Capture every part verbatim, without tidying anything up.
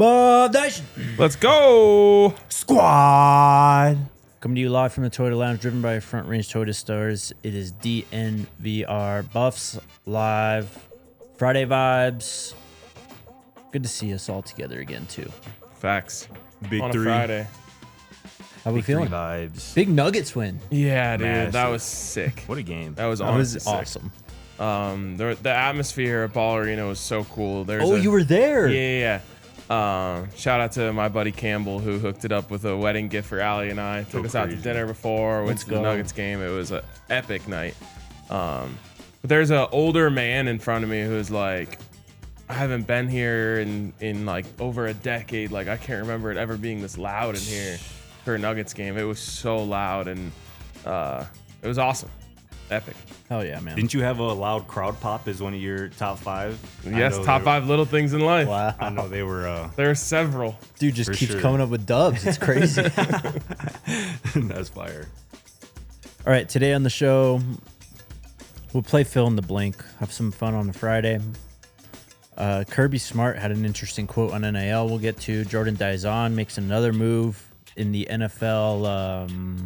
Bub Nation Let's go. Squad. Coming to you live from the Toyota Lounge, driven by Front Range Toyota Stores. It is D N V R Buffs Live. Friday vibes. Good to see us all together again, too. Facts. Big On three. a Friday. How we Big three feeling? vibes. Big Nuggets win. Yeah, dude. Massive. That was sick. What a game. That was That honestly was sick. awesome. Um, the, the atmosphere at Ball Arena was so cool. There's Oh, a, you were there. Yeah, yeah, yeah. Um, shout out to my buddy Campbell who hooked it up with a wedding gift for Allie and I. Took Go us out to crazy. dinner before. Went Let's to the go. Nuggets game. It was an epic night. Um, but there's an older man in front of me who's like, I haven't been here in, in like over a decade. Like I can't remember it ever being this loud in here for a Nuggets game. It was so loud and uh, it was awesome. Epic. Hell yeah, man. Didn't you have a loud crowd pop as one of your top five? I Yes, know top they- five little things in life. Wow. I know they were. Uh, There are several. Dude just For keeps sure. coming up with dubs. It's crazy. that's fire. All right, today on the show, we'll play fill in the blank, have some fun on a Friday. Uh, Kirby Smart had an interesting quote on N I L we'll get to. Jordan Dizon makes another move in the N F L um,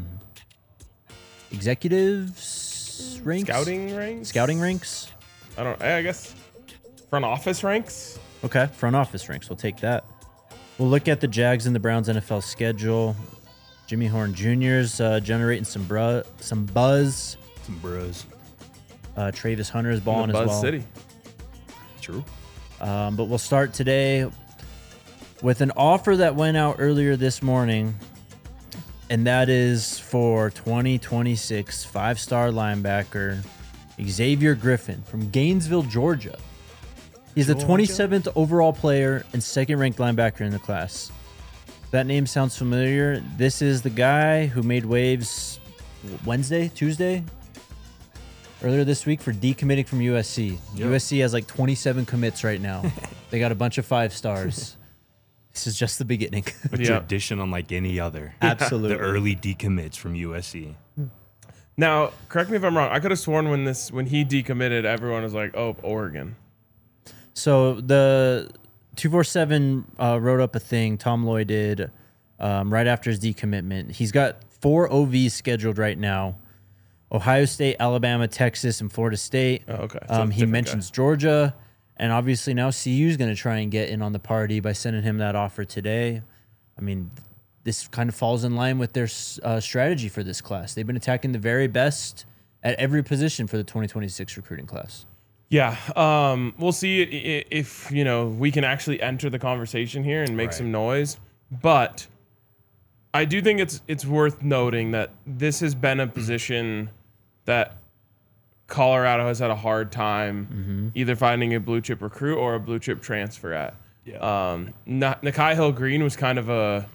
executives ranks? Scouting ranks? Scouting ranks? I don't I guess front office ranks. Okay, front office ranks. We'll take that. We'll look at the Jags and the Browns N F L schedule. Jimmy Horn Junior's uh, generating some bru- some buzz. Some bros. Uh, Travis Hunter is In balling the as Buzz well. City. True. Um, but we'll start today with an offer that went out earlier this morning, and that is for twenty twenty-six five-star linebacker Xavier Griffin from Gainesville, Georgia. He's the Georgia? twenty-seventh overall player and second-ranked linebacker in the class. If that name sounds familiar, this is the guy who made waves Wednesday, Tuesday, earlier this week for decommitting from U S C. Yep. U S C has like twenty-seven commits right now. They got a bunch of five stars. This is just the beginning. A Yeah. tradition unlike any other. Absolutely. The early decommits from U S C. Now, correct me if I'm wrong. I could have sworn when this when he decommitted, everyone was like, "Oh, Oregon." So the two forty-seven uh, wrote up a thing, Tom Lloyd did, um, right after his decommitment. He's got four O Vs scheduled right now. Ohio State, Alabama, Texas, and Florida State. Oh, okay. So Um, it's he different mentions Georgia, and obviously now C U is going to try and get in on the party by sending him that offer today. I mean, this kind of falls in line with their uh, strategy for this class. They've been attacking the very best at every position for the twenty twenty-six recruiting class. Yeah, um, we'll see i- i- if you know we can actually enter the conversation here and make Right. some noise. But I do think it's it's worth noting that this has been a position that Colorado has had a hard time either finding a blue chip recruit or a blue chip transfer at. Yeah. Um, Na- Nakai Hill Green was kind of a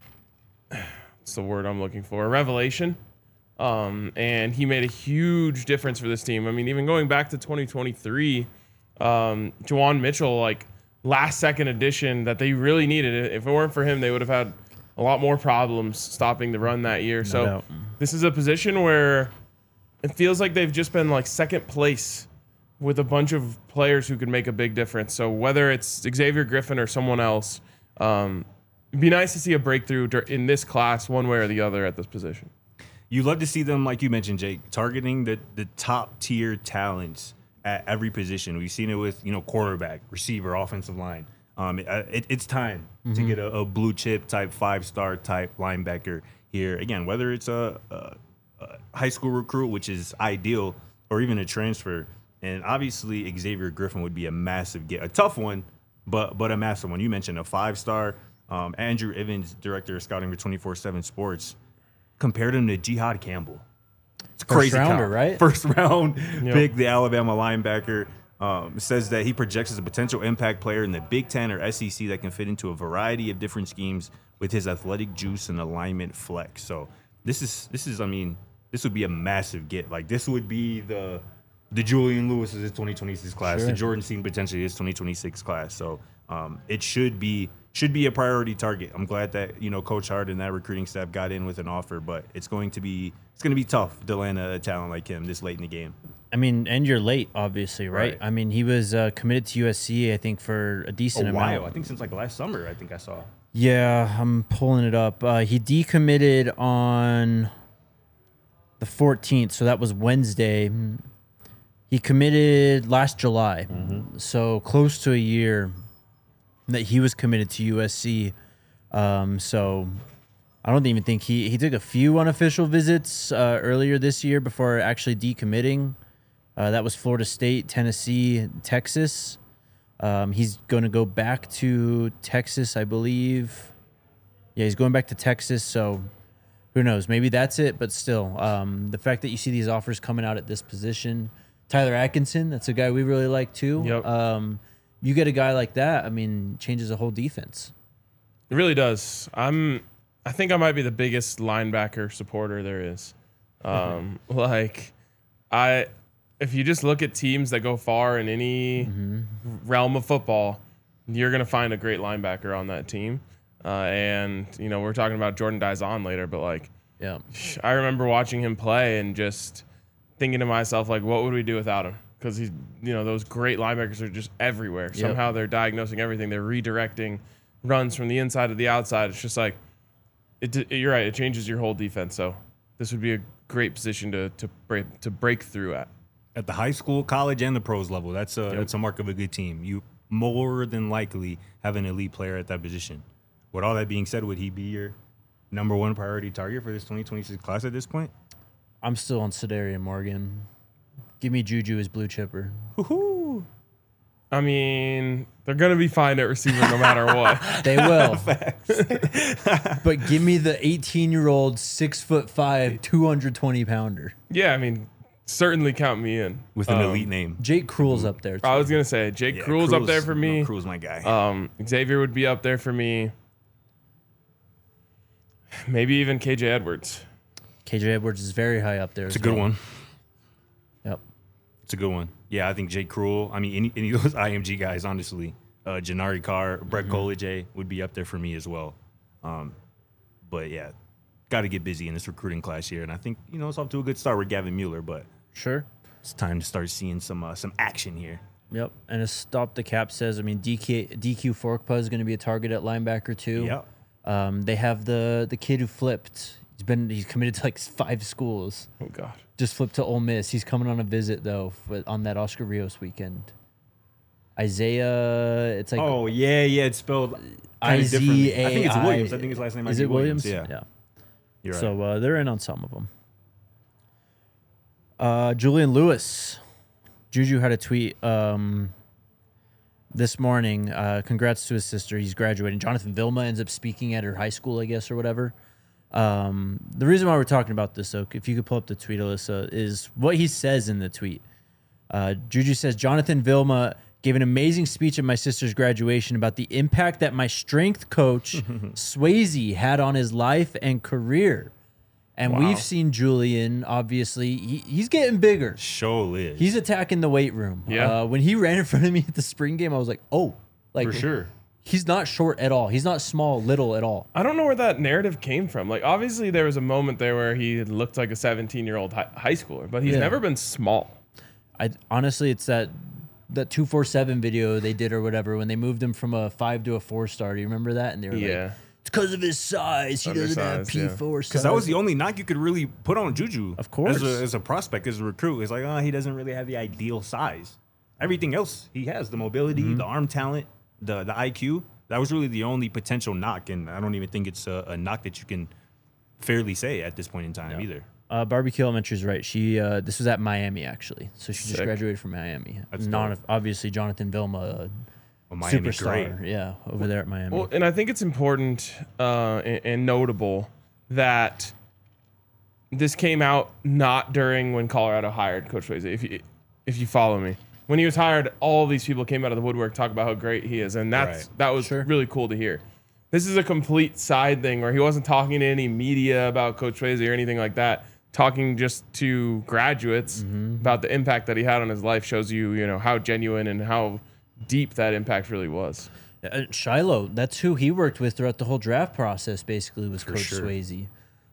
what's the word I'm looking for? A revelation. Um, and he made a huge difference for this team. I mean, even going back to twenty twenty-three, um, Juwan Mitchell, like last second addition that they really needed. If it weren't for him, they would have had a lot more problems stopping the run that year. so doubt. this is a position where it feels like they've just been like second place with a bunch of players who could make a big difference. So whether it's Xavier Griffin or someone else, um, it'd be nice to see a breakthrough dur- in this class one way or the other at this position. You love to see them, like you mentioned, Jake, targeting the, the top tier talents at every position. We've seen it with, you know, quarterback, receiver, offensive line. Um, it, it, it's time to get a, a blue chip type, five star type linebacker here. Again, whether it's a, a, a high school recruit, which is ideal, or even a transfer. And obviously, Xavier Griffin would be a massive get, a tough one, but but a massive one. You mentioned a five star. Um, Andrew Evans, director of scouting for twenty-four seven Sports, compared him to Jihad Campbell. It's a First crazy rounder, count. right? First round Yep. pick, the Alabama linebacker. Um, says that he projects as a potential impact player in the Big Ten or S E C that can fit into a variety of different schemes with his athletic juice and alignment flex. So this is this is I mean this would be a massive get. Like this would be the the Julian Lewis is his twenty twenty-six class, Sure. the Jordan Scene potentially his twenty twenty-six class. So um, it should be should be a priority target. I'm glad that you know Coach Hart and that recruiting staff got in with an offer, but it's going to be it's going to be tough to land a talent like him this late in the game. I mean, and you're late, obviously, right? Right. I mean, he was uh, committed to U S C, I think, for a decent A while. amount. I think since like last summer, I think I saw. Yeah, I'm pulling it up. Uh, he decommitted on the fourteenth, so that was Wednesday. He committed last July, Mm-hmm. so close to a year that he was committed to U S C. Um, so I don't even think he he took a few unofficial visits uh, earlier this year before actually decommitting. Uh, that was Florida State, Tennessee, Texas. Um, he's going to go back to Texas, I believe. Yeah, he's going back to Texas. So who knows? Maybe that's it. But still, um, the fact that you see these offers coming out at this position, Tyler Atkinson, that's a guy we really like too. Yep. Um, you get a guy like that, I mean, changes the whole defense. It really does. I'm. I think I might be the biggest linebacker supporter there is. Um, like, I. If you just look at teams that go far in any Mm-hmm. realm of football, you're gonna find a great linebacker on that team. Uh, and you know, we're talking about Jordan Dizon later, but like, Yeah. I remember watching him play and just thinking to myself, like, what would we do without him? Because he's, you know, those great linebackers are just everywhere. Somehow they're diagnosing everything. They're redirecting runs from the inside to the outside. It's just like, it, you're right. It changes your whole defense. So this would be a great position to to break to break through at. At the high school, college, and the pros level, that's a Yep. that's a mark of a good team. You more than likely have an elite player at that position. With all that being said, would he be your number one priority target for this twenty twenty-six class at this point? I'm still on Sedarian Morgan. Give me Juju as blue chipper. Woohoo! I mean, they're gonna be fine at receiver no matter what. They will. But give me the eighteen-year-old, six foot five, two hundred twenty pounder. Yeah, I mean, certainly count me in. With an Um, elite name. Jake Cruel's up there. Too. I was gonna say Jake Yeah, Cruel's up there Cruel's- for me. no, Cruel's my guy. Um, Xavier would be up there for me. Maybe even K J Edwards. K J Edwards is very high up there. it's a good one. Yep. It's a good one. Yeah, I think Jake Cruel. I mean, any, any of those I M G guys, honestly. Uh, Janari Carr, Brett Mm-hmm. Koleje would be up there for me as well. Um, but yeah, got to get busy in this recruiting class here. And I think, you know, it's off to a good start with Gavin Mueller, but Sure. it's time to start seeing some uh, some action here. Yep. And a stop the cap says, I mean, D K, D Q Forkpa is going to be a target at linebacker too. Yeah. Um, they have the the kid who flipped. He's been he's committed to like five schools. Oh God. Just flipped to Ole Miss. He's coming on a visit though for, on that Oscar Rios weekend. Isaiah, it's like Oh, yeah, yeah. It's spelled I kinda Z differently. A I. I think it's Williams. I think his last name might Is be it Williams? Yeah. Yeah. You're right. So uh, they're in on some of them. Uh, Julian Lewis, Juju had a tweet um, this morning. Uh, congrats to his sister. He's graduating. Jonathan Vilma ends up speaking at her high school, I guess, or whatever. Um, the reason why we're talking about this, though, if you could pull up the tweet, Alyssa, is what he says in the tweet. Uh, Juju says, Jonathan Vilma gave an amazing speech at my sister's graduation about the impact that my strength coach, Swayze, had on his life and career. And Wow. we've seen Julian, obviously, he, he's getting bigger. Show is. He's attacking the weight room. Yeah. Uh, when he ran in front of me at the spring game, I was like, oh. Like, for sure. He's not short at all. He's not small, little at all. I don't know where that narrative came from. Like, obviously, there was a moment there where he looked like a seventeen-year-old hi- high schooler, but he's Yeah. never been small. I honestly, it's that that two forty-seven video they did or whatever when they moved him from a five to a four star. Do you remember that? And they were Yeah. like, it's because of his size. He doesn't have Undersized, P yeah. four size. Because that was the only knock you could really put on Juju. Of course. As a, as a prospect, as a recruit. It's like, oh, he doesn't really have the ideal size. Everything else, he has the mobility, Mm-hmm. the arm talent, the, the I Q. That was really the only potential knock. And I don't even think it's a, a knock that you can fairly say at this point in time either. Uh, Barbecue Elementary is right. She uh, this was at Miami actually, so she just Sick. graduated from Miami. That's Non, dope. obviously Jonathan Vilma, uh, A Miami superstar, great. yeah, over there at Miami. Well, and I think it's important uh, and, and notable that this came out not during when Colorado hired Coach Swayze. If you if you follow me, when he was hired, all these people came out of the woodwork talk about how great he is, and that's Right. that was Sure. really cool to hear. This is a complete side thing where he wasn't talking to any media about Coach Swayze or anything like that. Talking just to graduates about the impact that he had on his life shows you, you know, how genuine and how deep that impact really was. Uh, Shiloh, that's who he worked with throughout the whole draft process. Basically, was Coach sure. Swayze.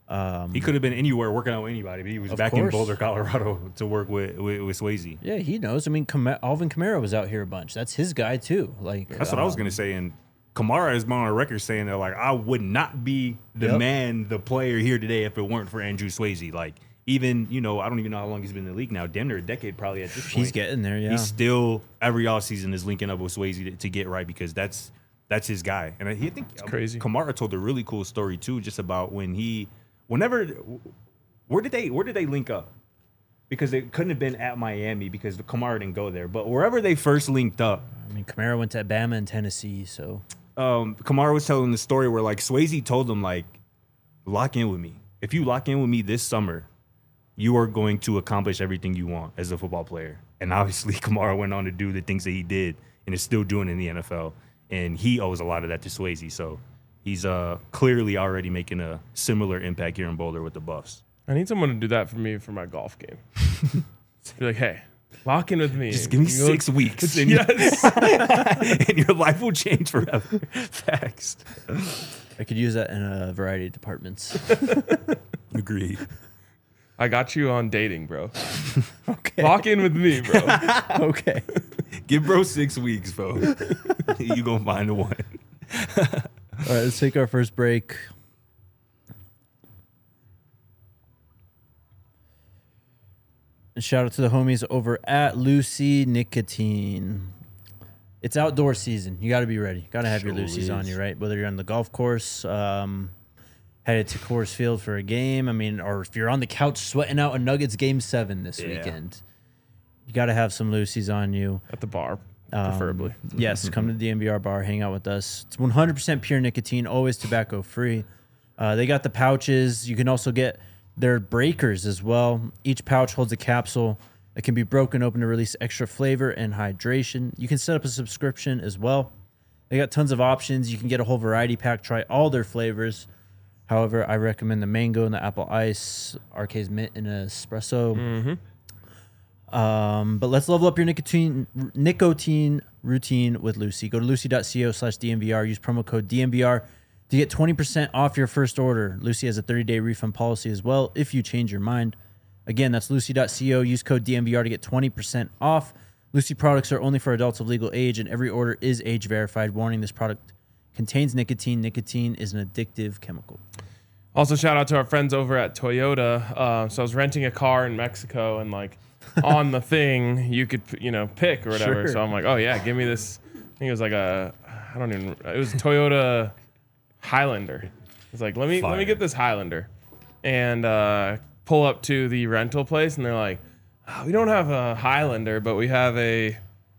Um, He could have been anywhere working out with anybody, but he was Of back course. in Boulder, Colorado, to work with with, with Swayze. yeah, he knows. I mean, Cam- Alvin Kamara was out here a bunch. That's his guy too. Like That's what I was um, gonna say. And Kamara has been on a record saying that like I would not be the Yep. man, the player here today if it weren't for Andrew Swayze. Like even you know I don't even know how long he's been in the league now. Damn near a decade probably at this point. He's getting there. Yeah. He's still every offseason is linking up with Swayze to, to get right because that's that's his guy. And I he think crazy. Kamara told a really cool story too, just about when he whenever where did they where did they link up? Because it couldn't have been at Miami because Kamara didn't go there. But wherever they first linked up, I mean, Kamara went to Bama and Tennessee, so um, Kamara was telling the story where like Swayze told him like, lock in with me. If you lock in with me this summer, you are going to accomplish everything you want as a football player. And obviously Kamara went on to do the things that he did and is still doing in the N F L. And he owes a lot of that to Swayze. So he's uh, clearly already making a similar impact here in Boulder with the Buffs. I need someone to do that for me for my golf game. Be like, hey, lock in with me. Just give me You go- six weeks and, Yes. and your life will change forever. Facts. I could use that in a variety of departments. Agreed. I got you on dating, bro. Okay. Lock in with me, bro. Okay. Give bro six weeks, bro. You gonna find the one. All right, let's take our first break. And shout out to the homies over at Lucy Nicotine. It's outdoor season. You got to be ready. Got to have your Sure Lucy's on is. you, right? Whether you're on the golf course, um, headed to Coors Field for a game. I mean, or if you're on the couch sweating out a Nuggets game seven this Yeah. weekend, you got to have some Lucy's on you. At the bar, Um, preferably. Yes, come to the D M V R bar, hang out with us. It's one hundred percent pure nicotine, always tobacco free. Uh, they got the pouches. You can also get their breakers as well. Each pouch holds a capsule that can be broken open to release extra flavor and hydration. You can set up a subscription as well. They got tons of options. You can get a whole variety pack, try all their flavors. However, I recommend the mango and the apple ice, R K's mint and espresso. Mm-hmm. Um, but let's level up your nicotine nicotine routine with Lucy. Go to lucy.co slash DMVR. Use promo code D M V R to get twenty percent off your first order. Lucy has a thirty-day refund policy as well if you change your mind. Again, that's lucy.co. Use code D M V R to get twenty percent off. Lucy products are only for adults of legal age, and every order is age verified. Warning, this product contains nicotine. Nicotine is an addictive chemical. Also, shout out to our friends over at Toyota. Uh, so I was renting a car in Mexico, and like on the thing, you could you know pick or whatever. Sure. So I'm like, oh yeah, give me this. I think it was like a, I don't even. It was a Toyota Highlander. It's like let me let me Fire. get this Highlander, and uh, pull up to the rental place, and they're like, oh, we don't have a Highlander, but we have a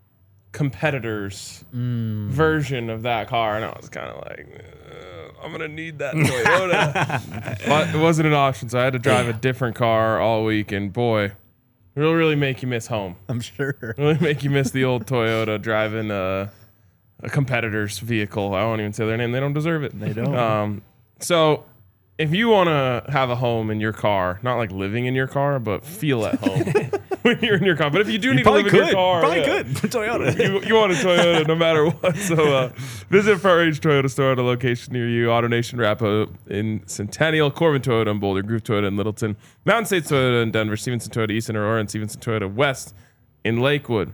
competitor's version of that car, and I was kind of like. "Uh, I'm gonna need that Toyota, but it wasn't an option, so I had to drive a different car all week. And boy, it'll really make you miss home. I'm sure. Really make you miss the old Toyota driving a, a competitor's vehicle. I won't even say their name; they don't deserve it. They don't. Um, so, if you want to have a home in your car, not like living in your car, but feel at home when you're in your car. But if you do need to live in your car, Probably yeah. could. Toyota. you, you want a Toyota no matter what. So uh, visit Front Range Toyota store at a location near you. AutoNation Rapo in Centennial, Corbin Toyota in Boulder, Groove Toyota in Littleton, Mountain States Toyota in Denver, Stevenson Toyota East in Aurora, and Stevenson Toyota West in Lakewood.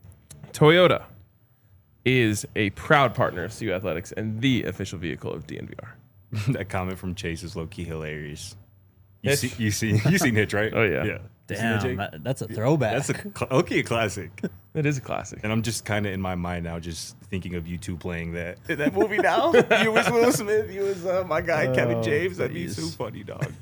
Toyota is a proud partner of C U Athletics and the official vehicle of D N V R. That comment from Chase is low key hilarious. You Hitch. see, you see, you seen Hitch, right? Oh, yeah. yeah. You seen that, Damn, Jake? that- that's a throwback. That's a cl- okay, a classic. It is a classic. And I'm just kind of in my mind now, just thinking of you two playing that that movie now. You was Will Smith, you was uh, my guy Kevin Oh, James. That'd be please. so funny, dog.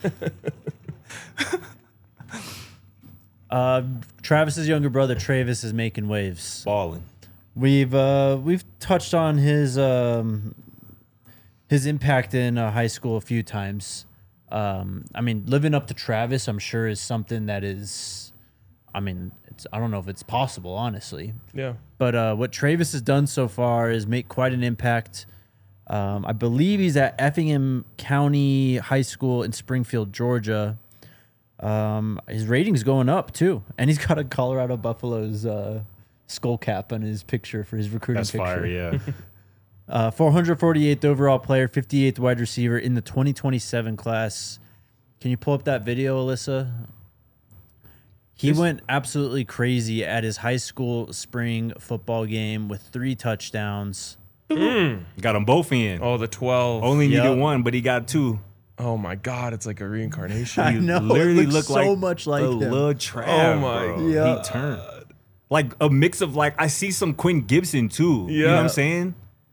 Uh, Travis's younger brother Travis is making waves. Balling. We've uh, we've touched on his um, his impact in uh, high school a few times. Um, I mean, living up to Travis, I'm sure is something that is. I mean, it's I don't know if it's possible, honestly. Yeah. But uh, what Travis has done so far is make quite an impact. Um, I believe he's at Effingham County High School in Springfield, Georgia. Um, his rating's going up too, and he's got a Colorado Buffaloes uh, skull cap on his picture for his recruiting That's picture. fire, yeah. Uh, four hundred forty-eighth overall player, fifty-eighth wide receiver in the twenty twenty-seven class. Can you pull up that video, Alyssa? He went absolutely crazy at his high school spring football game with three touchdowns. Mm. Got them both in. Oh, the twelve. Only Yep. needed one, but he got two. Oh my God, it's like a reincarnation. I He know, it literally looks looked so like much like a him. little Trav, Oh my bro. Yeah. He turned like a mix of like I see some Quinn Gibson too. You know Yeah. what I'm saying?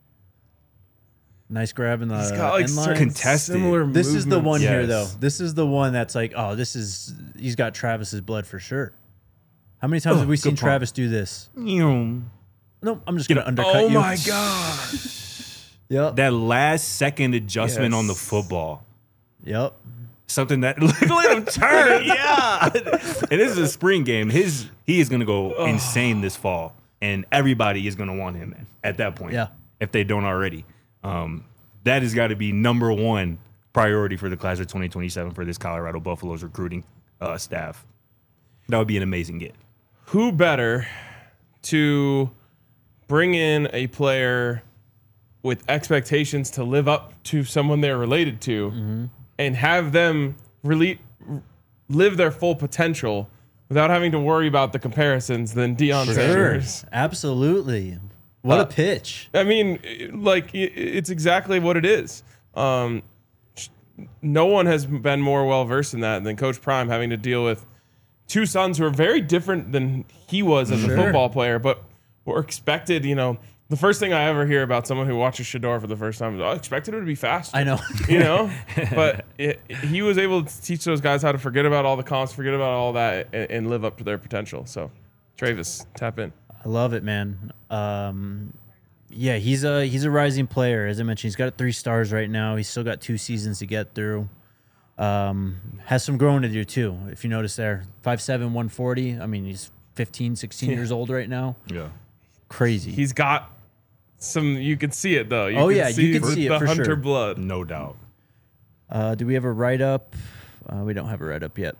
Nice grab in the He's got like end line. certain Contested. similar This is the movements. one here, though. Yes. This is the one that's like, oh, this is he's got Travis's blood for sure. How many times Oh, have we good seen point. Travis do this? You No, I'm just gonna undercut Oh you. my God. Yep. that last second adjustment on the Yes. football. Yep. Something that look at him turn. Yeah. And this is a spring game. His he is gonna go insane this fall. And everybody is gonna want him at that point. Yeah. If they don't already. Um, that has got to be number one priority for the class of twenty twenty-seven for this Colorado Buffaloes recruiting uh, staff. That would be an amazing get. Who better to bring in a player with expectations to live up to someone they're related to Mm-hmm. and have them really live their full potential without having to worry about the comparisons than Deion Sure. Sanders? Absolutely. What Uh, a pitch. I mean, like, i- it's exactly what it is. Um, sh- no one has been more well versed in that than Coach Prime, having to deal with two sons who are very different than he was as Sure. a football player, but were expected, you know. The first thing I ever hear about someone who watches Shador for the first time is, oh, I expected him to be fast. I know. You know? But it, he was able to teach those guys how to forget about all the comps, forget about all that, and, and live up to their potential. So, Travis, tap in. I love it, man. Um, yeah, he's a he's a rising player. As I mentioned, he's got three stars right now. He's still got two seasons to get through. Um, has some growing to do too. If you notice there, five seven, one forty. I mean, he's fifteen, sixteen years old right now. Yeah. Crazy. He's got some, you can see it though. You Oh, can yeah, you can see it the for hunter sure. blood. No doubt. Uh, do we have a write up? Uh, we don't have a write up yet.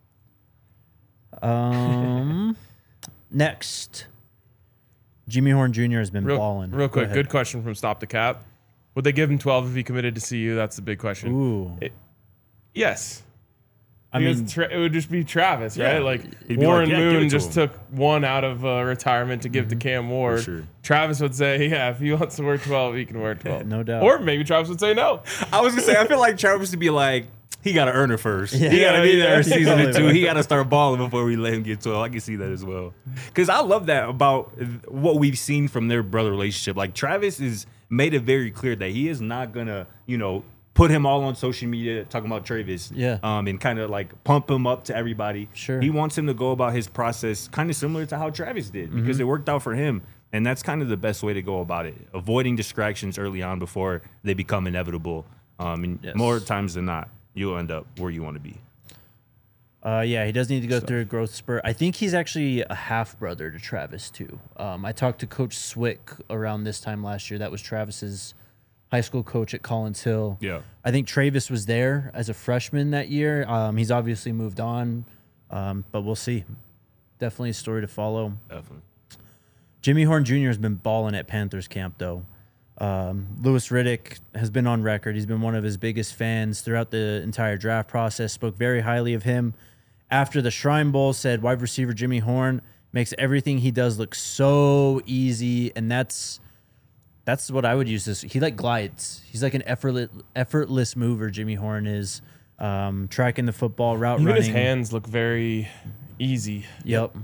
Um, next, Jimmy Horn Junior has been Real, balling. real Go quick, ahead. good question from Stop the Cap. Would they give him twelve if he committed to C U? That's the big question. Ooh, It- yes. I Because mean, Tra- it would just be Travis, Yeah. right? Like He'd be Warren like, yeah, give it Moon to just him. took one out of uh, retirement to give to Cam Ward. sure. Travis would say, yeah, if he wants to wear twelve, he can wear twelve. No doubt. Or maybe Travis would say no. I was gonna say I feel like Travis to be like he got to earn it first. Yeah. he got to be Yeah, there yeah. season or two. Totally. He got to start balling before we let him get twelve. I can see that as well. Because I love that about what we've seen from their brother relationship. Like Travis is made it very clear that he is not gonna, you know, put him all on social media talking about Travis. Yeah. Um, and kind of like pump him up to everybody. Sure. He wants him to go about his process kind of similar to how Travis did because Mm-hmm. it worked out for him. And that's kind of the best way to go about it. Avoiding distractions early on before they become inevitable. Um, and Yes. more times than not, you'll end up where you want to be. Uh, yeah, he does need to go through a growth spurt. I think he's actually a half brother to Travis too. Um, I talked to Coach Swick around this time last year. That was Travis's high school coach at Collins Hill. Yeah. I think Travis was there as a freshman that year. Um, he's obviously moved on, um, but we'll see. Definitely a story to follow. Definitely. Jimmy Horn Junior has been balling at Panthers camp though. Um, Lewis Riddick has been on record. He's been one of his biggest fans throughout the entire draft process. Spoke very highly of him after the Shrine Bowl. Said wide receiver Jimmy Horn makes everything he does look so easy, and that's that's what I would use this. He like glides. He's like an effortless effortless mover. Jimmy Horn is um, tracking the football, route Even running. his hands look very easy. Yep.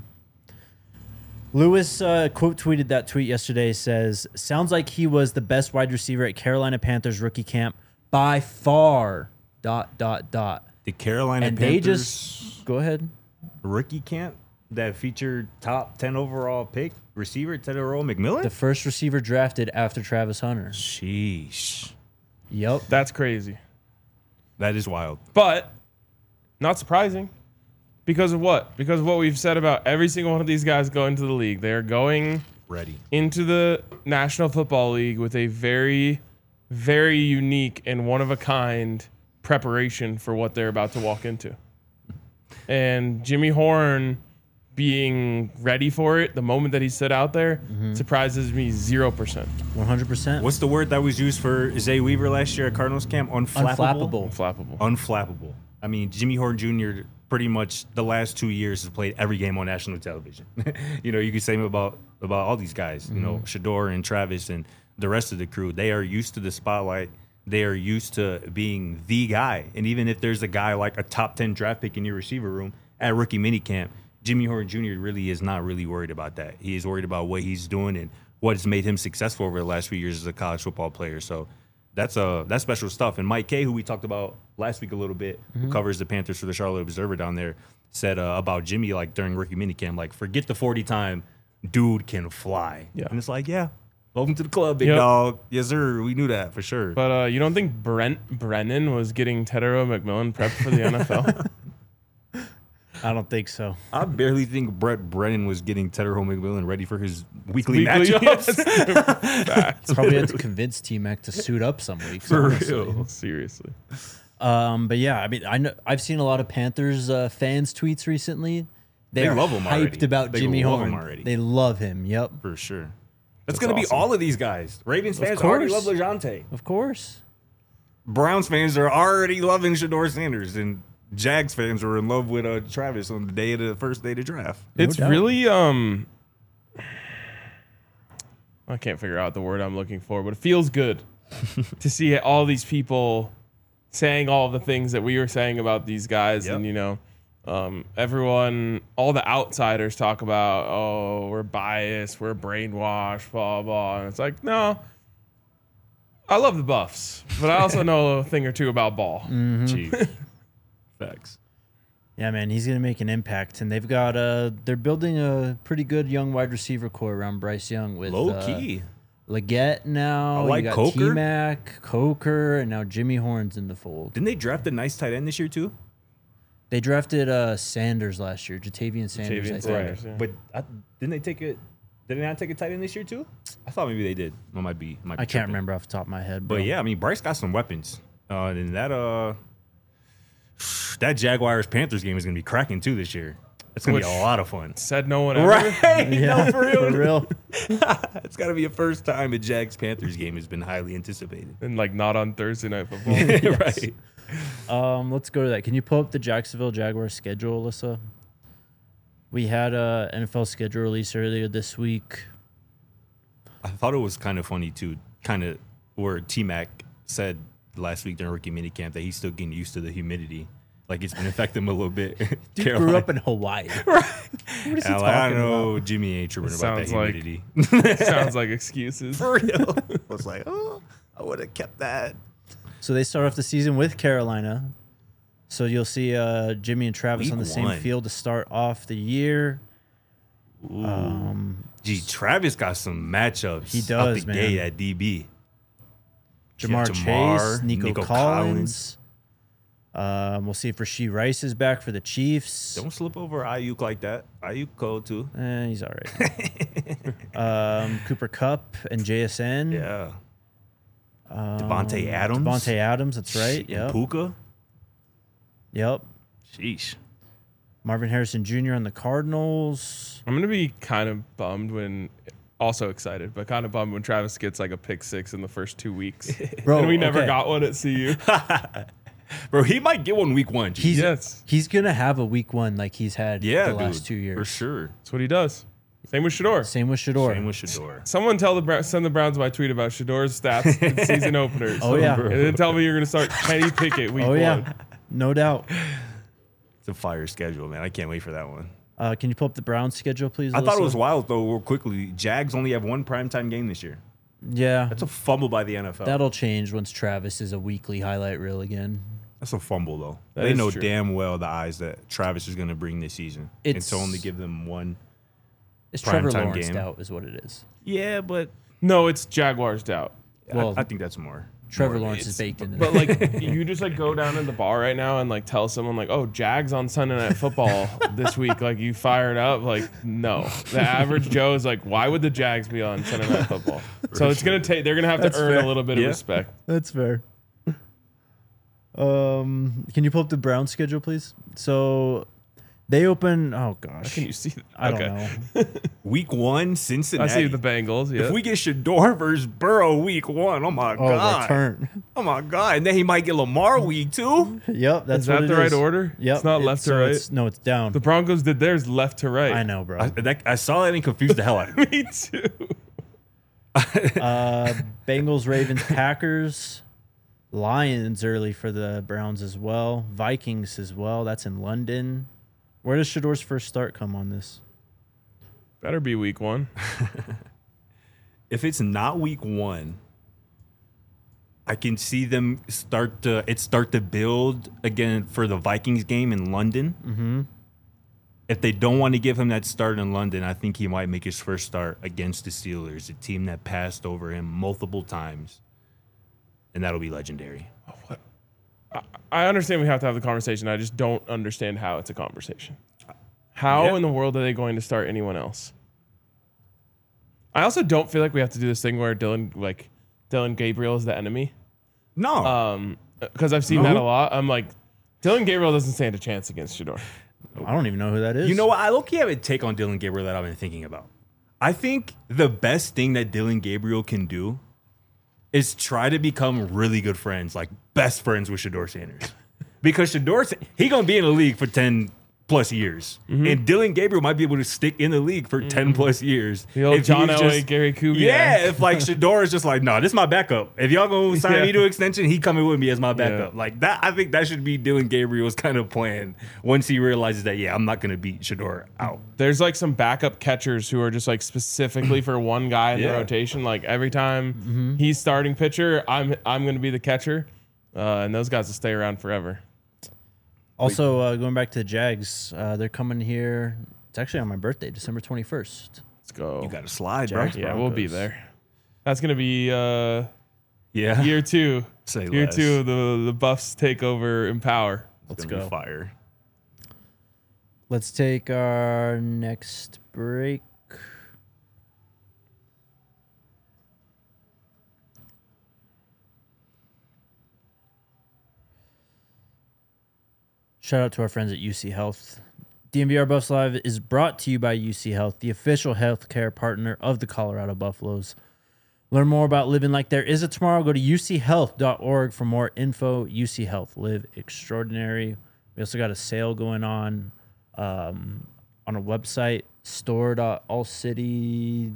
Lewis uh, quote tweeted that tweet yesterday. Says, "Sounds like he was the best wide receiver at Carolina Panthers rookie camp by far." Dot dot dot. The Carolina And Panthers they just go ahead. rookie camp that featured top ten overall pick receiver Tedero McMillan. The first receiver drafted after Travis Hunter. Sheesh. Yep. That's crazy. That is wild. But not surprising. Because of what? Because of what we've said about every single one of these guys going to the league. They're going Ready. into the National Football League with a very, very unique and one of a kind preparation for what they're about to walk into. And Jimmy Horn being ready for it the moment that he stood out there surprises me zero percent. one hundred percent. What's the word that was used for Zay Weaver last year at Cardinals camp? Unflappable. Unflappable. Unflappable. Unflappable. I mean, Jimmy Horn Junior pretty much the last two years has played every game on national television. You know, you could say about about all these guys. Mm-hmm. You know, Shedeur and Travis and the rest of the crew. They are used to the spotlight. They are used to being the guy. And even if there's a guy like a top ten draft pick in your receiver room at rookie minicamp, Jimmy Horn Junior really is not really worried about that. He is worried about what he's doing and what has made him successful over the last few years as a college football player. So that's uh that's special stuff. And Mike Kay, who we talked about last week a little bit, mm-hmm. who covers the Panthers for the Charlotte Observer down there, said uh, about Jimmy, like during rookie minicamp, like, forget the forty time, dude can fly. Yeah. And it's like, yeah, welcome to the club, big Yep. dog. Yes, sir. We knew that for sure. But uh, you don't think Brent Brennan was getting Tedero McMillan prepped for the N F L? I don't think so. I barely think Brett Brennan was getting Tedero McMillan ready for his weekly, Weekly matchups. Facts. Probably had to convince T-Mac to suit up some weeks. For honestly. real. Seriously. Um, but yeah, I mean, I know I've seen a lot of Panthers uh, fans tweets recently. They, They are love him hyped already. about They Jimmy love Horn. him already. They love him. Yep, For sure. That's, That's going to awesome. be all of these guys. Ravens Of fans already love course. LeJounte. of course. Browns fans are already loving Shedeur Sanders. And Jags fans were in love with uh, Travis on the day of the first day of the draft. No It's doubt. really um I can't figure out the word I'm looking for, but it feels good to see all these people saying all the things that we were saying about these guys. Yep. And you know, um, everyone, all the outsiders talk about, oh, we're biased, we're brainwashed, blah blah. And it's like, no, I love the Buffs, but I also know a thing or two about ball. Mm-hmm. Jeez. Facts. Yeah, man, he's gonna make an impact, and they've got uh they're building a pretty good young wide receiver core around Bryce Young with Low uh, key. Leggett now. I like you got Coker. T-Mac, Coker, and now Jimmy Horn's in the fold. Didn't they draft a nice tight end this year, too? They drafted uh Sanders last year, Jatavian Sanders. Jatavian I think. Sanders. yeah. But I, didn't they take it? Did they not take a tight end this year, too? I thought maybe they did. I might be. Might be I can't tripping. remember off the top of my head. Bro. But yeah, I mean, Bryce got some weapons. Uh, and that uh, that Jaguars Panthers game is gonna be cracking too this year. It's gonna Which- be a lot of fun. Said no one ever. Right? Yeah, No, for real. For real. It's gotta be a first time a Jags Panthers game has been highly anticipated. And like not on Thursday Night Football. Right. Um, let's go to that. Can you pull up the Jacksonville Jaguars schedule, Alyssa? We had a N F L schedule release earlier this week. I thought it was kind of funny too, kind of where T Mac said last week during rookie minicamp that he's still getting used to the humidity. Like it's been affecting him a little bit. Dude Carolina. grew up in Hawaii. What is he And I'm like, I talking know about? Jimmy ain't tripping about that Sounds like- humidity. Sounds like excuses. For real. I was like, oh, I would have kept that. So they start off the season with Carolina. So you'll see uh, Jimmy and Travis Week on the same one. field to start off the year. Um, Gee, Travis got some matchups. He out does, the man. gate at D B. Jamar, Jamar, Chase, Nico, Nico Collins. Um, we'll see if Rasheed Rice is back for the Chiefs. Don't slip over Ayuk like that. Ayuk cold too. Eh, he's all right. um, Cooper Kupp and J S N. Yeah. Um, Devontae Adams. Devontae Adams, that's right. And Yep. Puka. Yep. Sheesh. Marvin Harrison Junior on the Cardinals. I'm gonna be kind of bummed when, also excited, but kind of bummed when Travis gets like a pick six in the first two weeks, Bro, and we never okay. got one at C U. Bro, he might get one week one. G. He's Yes, he's gonna have a week one like he's had yeah, the last dude, two years. for sure. that's what he does. Same with Shedeur. Same with Shedeur. Same with Shedeur. Someone tell the Bra- send the Browns my tweet about Shedeur's stats in season openers. Oh, yeah. and then tell me you're gonna start Kenny Pickett week Oh yeah, one. no doubt. It's a fire schedule, man. I can't wait for that one. Uh, can you pull up the Browns schedule, please? I thought it Alyssa? was wild though. Real quickly, Jags only have one primetime game this year. Yeah, That's a fumble by the N F L. that'll change once Travis is a weekly highlight reel again. That's a fumble though. That they is know true. damn well the eyes that Travis is going to bring this season, It's- and to only give them one. It's Prime Trevor time Lawrence game. doubt is what it is. Yeah, but No, it's Jaguars doubt. Well, I, I think that's more. Trevor more- Lawrence is baked into But that. like, you just like go down in the bar right now and like tell someone like, "Oh, Jags on Sunday Night Football this week." Like, you fired up? Like, no. The average Joe is like, "Why would the Jags be on Sunday Night Football?" So it's gonna take. They're gonna have to That's earn fair. a little bit Yeah. of respect. That's fair. Um, can you pull up the Browns schedule, please? So They open. Oh How gosh, can you see that? I don't Okay. know. Week one, I Cincinnati. see the Bengals. Yeah. If we get Shador versus Burrow week one, oh my Oh, god, return. oh my god, and then he might get Lamar week two. Yep, that's Is what that it the right is. order? Yep, It's not left to so right? It's, no, it's down. The Broncos did theirs left to right. I know, bro. I, that, I saw that and confused the hell out of me. Me too. Uh, Bengals, Ravens, Packers, Lions early for the Browns as well. Vikings as well. That's in London. Where does Shador's first start come on this? Better be week one. If it's not week one, I can see them start to it start to build again for the Vikings game in London. Mm-hmm. If they don't want to give him that start in London, I think he might make his first start against the Steelers, a team that passed over him multiple times, and that'll be legendary. I understand we have to have the conversation. I just don't understand how it's a conversation. How Yeah. in the world are they going to start anyone else? I also don't feel like we have to do this thing where Dylan, like Dylan Gabriel, is the enemy. No, Um, because I've seen No. that a lot. I'm like, Dylan Gabriel doesn't stand a chance against Shador. I don't even know who that is. you know what? I low-key have a take on Dylan Gabriel that I've been thinking about. I think the best thing that Dylan Gabriel can do is try to become really good friends, like best friends with Shador Sanders. Because Shador, he gonna be in the league for ten plus years, Mm-hmm. and Dylan Gabriel might be able to stick in the league for ten plus years. The old If John he's Elway, just- Gary Kubiak. Yeah, if like Shador is just like, no, this is my backup. If y'all gonna sign Yeah. me to extension, he coming with me as my backup. Yeah. Like that, I think that should be Dylan Gabriel's kind of plan once he realizes that, yeah, I'm not gonna beat Shador out. There's like some backup catchers who are just like specifically for one guy in the Yeah. rotation. Like every time Mm-hmm. he's starting pitcher, I'm I'm going to be the catcher, uh, and those guys will stay around forever. Also, uh, going back to the Jags, uh, they're coming here. It's actually on my birthday, December twenty-first. Let's go. You got to slide, Jags, bro. yeah, we'll be Broncos. there. That's going to be uh, Yeah, year two. Say year less. two of the the Buffs take over Empower. Let's Gonna be go. fire. Let's take our next break. Shout out to our friends at U C Health. D M V R Buffs Live is brought to you by U C Health, the official healthcare partner of the Colorado Buffaloes. Learn more about living like there is a tomorrow. Go to u c health dot org for more info. U C Health, live extraordinary. We also got a sale going on um, on a website, store.allcity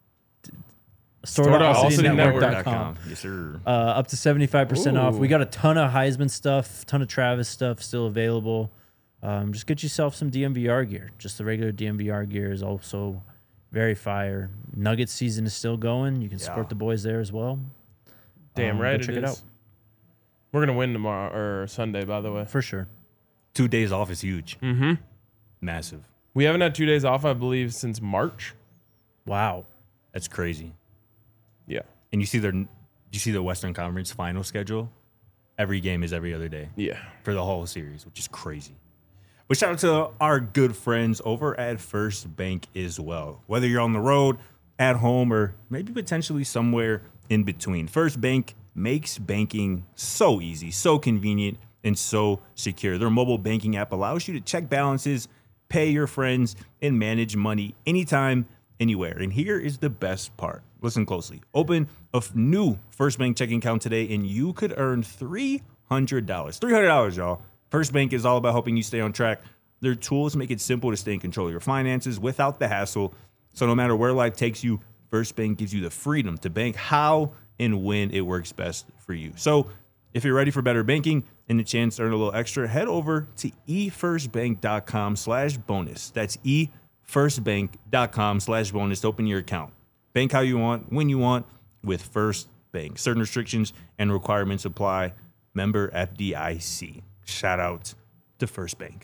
store.allcitynetwork dot com. Yes, sir. Uh, up to seventy-five percent off. Ooh. We got a ton of Heisman stuff, ton of Travis stuff still available. Um, just get yourself some D M V R gear. Just the regular D M V R gear is also very fire. Nuggets season is still going. You can support Yeah. the boys there as well. Damn Um, go right, check it it is. out. We're gonna win tomorrow or Sunday, by the way. For sure. Two days off is huge. Mm-hmm. Massive. We haven't had two days off, I believe, since March. Wow. That's crazy. Yeah, And you see their, you see the Western Conference final schedule. Every game is every other day yeah. for the whole series, which is crazy. But shout out to our good friends over at First Bank as well. Whether you're on the road, at home, or maybe potentially somewhere in between, First Bank makes banking so easy, so convenient, and so secure. Their mobile banking app allows you to check balances, pay your friends, and manage money anytime, anywhere. And here is the best part. Listen closely. Open a f- new First Bank checking account today, and you could earn three hundred dollars. three hundred dollars, y'all. First Bank is all about helping you stay on track. Their tools make it simple to stay in control of your finances without the hassle. So no matter where life takes you, First Bank gives you the freedom to bank how and when it works best for you. So if you're ready for better banking and the chance to earn a little extra, head over to e first bank dot com slash bonus. That's e first bank dot com slash bonus to open your account. Bank how you want, when you want, with First Bank. Certain restrictions and requirements apply. Member F D I C. Shout out to First Bank.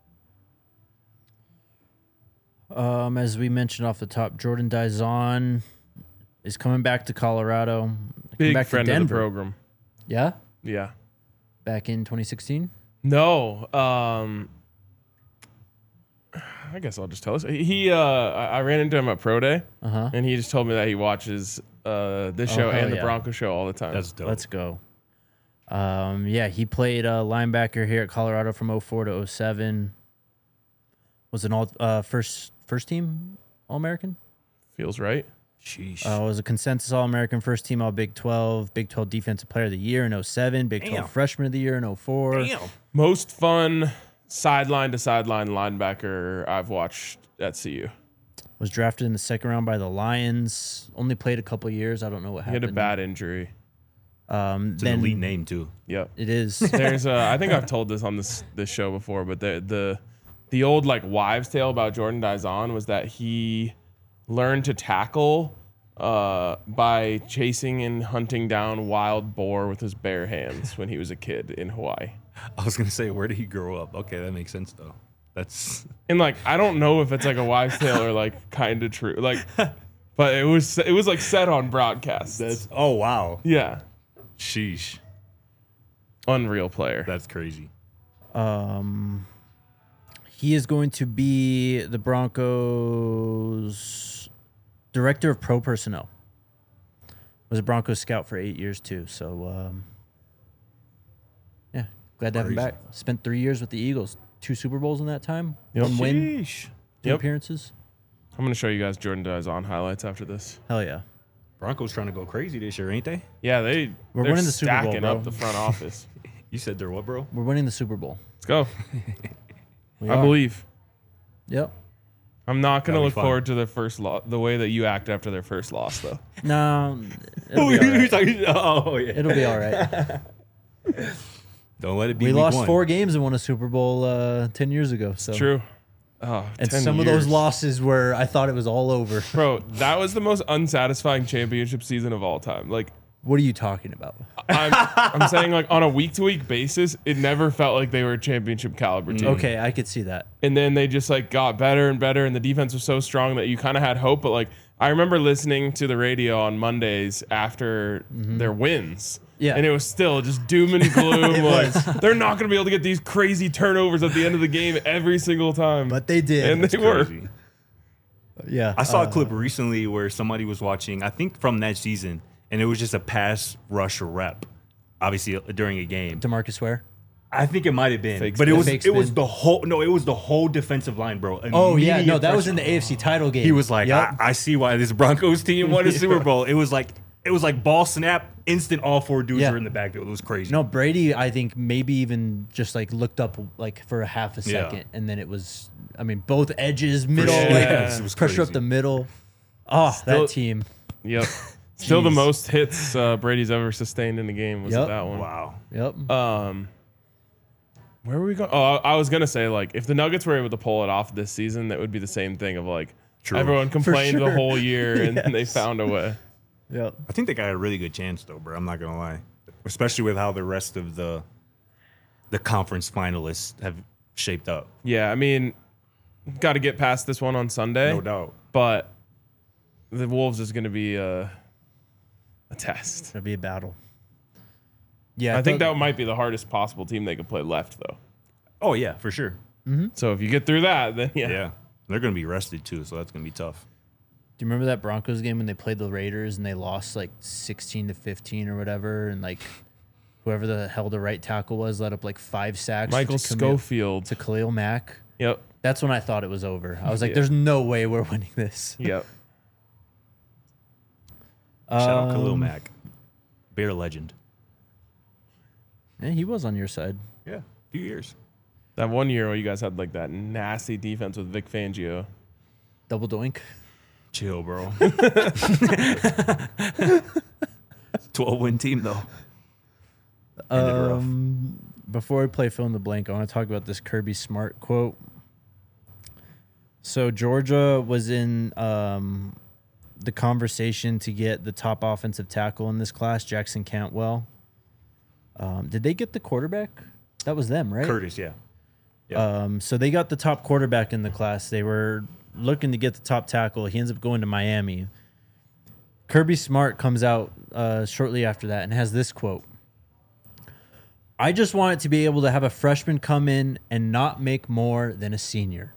Um, as we mentioned off the top, Jordan Dizon is coming back to Colorado. Coming Big back friend to of the Denver. program. Yeah? Yeah. Back in twenty sixteen? No. Um. I guess I'll just tell us. He. Uh. I I ran into him at Pro Day, Uh-huh. and he just told me that he watches uh this Oh, show hell and the yeah. Bronco show all the time. That's dope. Let's go. Um, yeah, he played uh, linebacker here at Colorado from oh four to oh seven. Was an all uh, first first team All American. Feels right. Sheesh. Uh, was a consensus All American, first team All Big twelve, Big twelve Defensive Player of the Year in oh seven, Big Damn. twelve Freshman of the Year in oh four. Damn. Most fun sideline to sideline linebacker I've watched at C U. Was drafted in the second round by the Lions. Only played a couple years. I don't know what He had happened. a bad injury. Um, It's then an elite name too. Yep. It is. There's a, I think I've told this on this this show before, but the the the old like wives' tale about Jordan Dizon was that he learned to tackle uh, by chasing and hunting down wild boar with his bare hands when he was a kid in Hawaii. I was gonna say, where did he grow up? Okay, that makes sense though. That's And like I don't know if it's like a wives' tale or like kind of true, like, but it was it was like said on broadcast. that's. Oh wow. Yeah, Sheesh. unreal player. That's crazy. Um, he is going to be the Broncos director of pro personnel. Was a Broncos scout for eight years too. So, um, yeah, glad to have him Crazy. back. Spent three years with the Eagles, two Super Bowls in that time, Yep. one win, Sheesh. two Yep. appearances. I'm gonna show you guys Jordan Dizon highlights after this. Hell yeah. Broncos trying to go crazy this year, ain't they? Yeah, they We're they're winning the Super Bowl, stacking bro. up the front office. You said they're what, bro? We're winning the Super Bowl. Let's go. We I are. believe. Yep. I'm not gonna That'll be look fun. forward to their first loss. The way that you act after their first loss, though. No, it'll be all right. talking? Oh yeah. It'll be all right. Don't let it be. We week lost one. four games and won a Super Bowl uh, ten years ago. So True. Oh, And ten some of those years. losses were I thought it was all over. Bro, that was the most unsatisfying championship season of all time. Like, What are you talking about? I'm, I'm saying, like, on a week to week basis, it never felt like they were a championship caliber team. Okay, I could see that. And then they just like got better and better, and the defense was so strong that you kind of had hope. But like, I remember listening to the radio on Mondays after their wins. Yeah. And it was still just doom and gloom. It like, was. they're not going to be able to get these crazy turnovers at the end of the game every single time. But they did. And they It's were. crazy. yeah. I saw uh, a clip recently where somebody was watching, I think from that season, and it was just a pass rush rep, obviously uh, during a game. DeMarcus Ware. I think it might have been, Fake but it spin. was Fake it was spin. the whole no, it was the whole defensive line, bro. Oh yeah, no, Immediate that was pressure. in the A F C title game. He was like, Yep. I, I see why this Broncos team won a Super Bowl. It was like it was like ball snap, instant. All four dudes Yeah. were in the backfield. It was crazy. No, Brady, I think maybe even just like looked up like for a half a Yeah. second, and then it was, I mean, both edges, middle, sure. like Yes, it was pressure up crazy. the middle. Oh, Still- that team. Yep. Still the Jeez. most hits uh, Brady's ever sustained in a game was Yep. that one. Wow. Yep. Um, where were we going? Oh, I I was gonna say like if the Nuggets were able to pull it off this season, that would be the same thing of like True. everyone complained the sure. whole year and they Yes. found a way. yep. I think they got a really good chance though, bro. I'm not gonna lie, especially with how the rest of the the conference finalists have shaped up. Yeah, I mean, got to get past this one on Sunday, No doubt. but the Wolves is gonna be a, a test. It'll be a battle. Yeah, I think thought- that might be the hardest possible team they could play left though. Oh yeah, for sure. So if you get through that, then yeah. Yeah, they're gonna be rested too, so that's gonna be tough. Do you remember that Broncos game when they played the Raiders and they lost like sixteen to fifteen or whatever, and like whoever the hell the right tackle was let up like five sacks. Michael to Camille- Schofield. to Khalil Mack. Yep. That's when I thought it was over. I was like, Yeah. "There's no way we're winning this." Yep. Shout out Khalil Um, Mack, Bear legend. Yeah, he was on your side. Yeah, a few years. That one year where you guys had like that nasty defense with Vic Fangio. Double doink. Chill, bro. twelve win team though. Ended rough. Um, before we play fill in the blank, I want to talk about this Kirby Smart quote. So Georgia was in um, the conversation to get the top offensive tackle in this class, Jackson Cantwell. Um, did they get the quarterback? That was them, right? Curtis, yeah. Um, so they got the top quarterback in the class. They were looking to get the top tackle. He ends up going to Miami. Kirby Smart comes out uh, shortly after that and has this quote. I just want it to be able to have a freshman come in and not make more than a senior.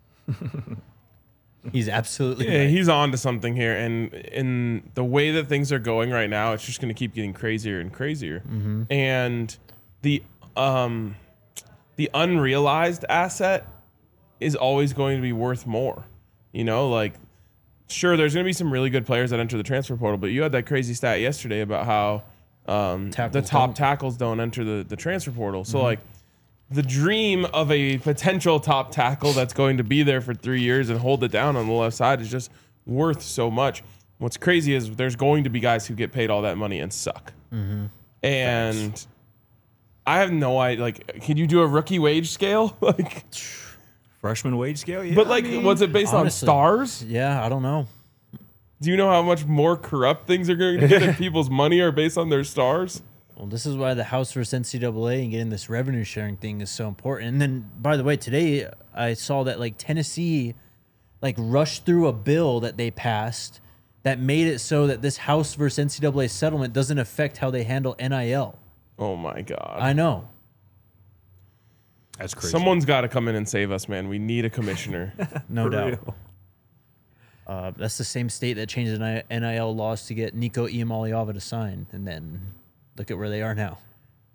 He's absolutely Yeah, right. he's on to something here, and in the way that things are going right now, it's just going to keep getting crazier and crazier. And the um, the unrealized asset is always going to be worth more. You know, like, sure, there's going to be some really good players that enter the transfer portal, but you had that crazy stat yesterday about how um, the top don't. tackles don't enter the, the transfer portal. So, mm-hmm. like, the dream of a potential top tackle that's going to be there for three years and hold it down on the left side is just worth so much. What's crazy is there's going to be guys who get paid all that money and suck. Mm-hmm. And Thanks. I have no idea. Like, can you do a rookie wage scale? Like, freshman wage scale? Yeah. But, like, I mean, was it based honestly, on stars? Yeah, I don't know. Do you know how much more corrupt things are going to get if people's money are based on their stars? Well, this is why the House versus N C double A and getting this revenue sharing thing is so important. And then, by the way, today I saw that like Tennessee, like rushed through a bill that they passed that made it so that this House versus N C double A settlement doesn't affect how they handle N I L. Oh my God! I know. That's crazy. Someone's got to come in and save us, man. We need a commissioner. No doubt. Uh, that's the same state that changed the N I L laws to get Nico Iamaleava to sign, and then look at where they are now.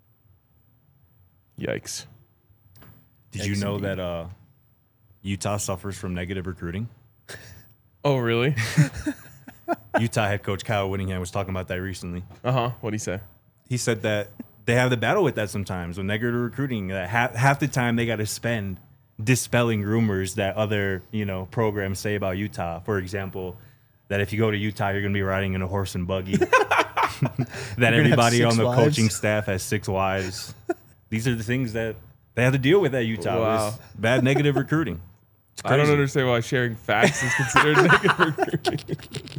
Yikes. Did Yikes you know indeed. that uh, Utah suffers from negative recruiting? Oh, really? Utah head coach Kyle Whittingham was talking about that recently. Uh-huh. What'd he say? He said that they have to battle with that sometimes with negative recruiting. That half, half the time they got to spend dispelling rumors that other, you know, programs say about Utah. For example, that if you go to Utah, you're going to be riding in a horse and buggy. That everybody on the wives. coaching staff has six wives. These are the things that they have to deal with at Utah. Wow. Bad negative recruiting. I don't understand why sharing facts is considered negative recruiting.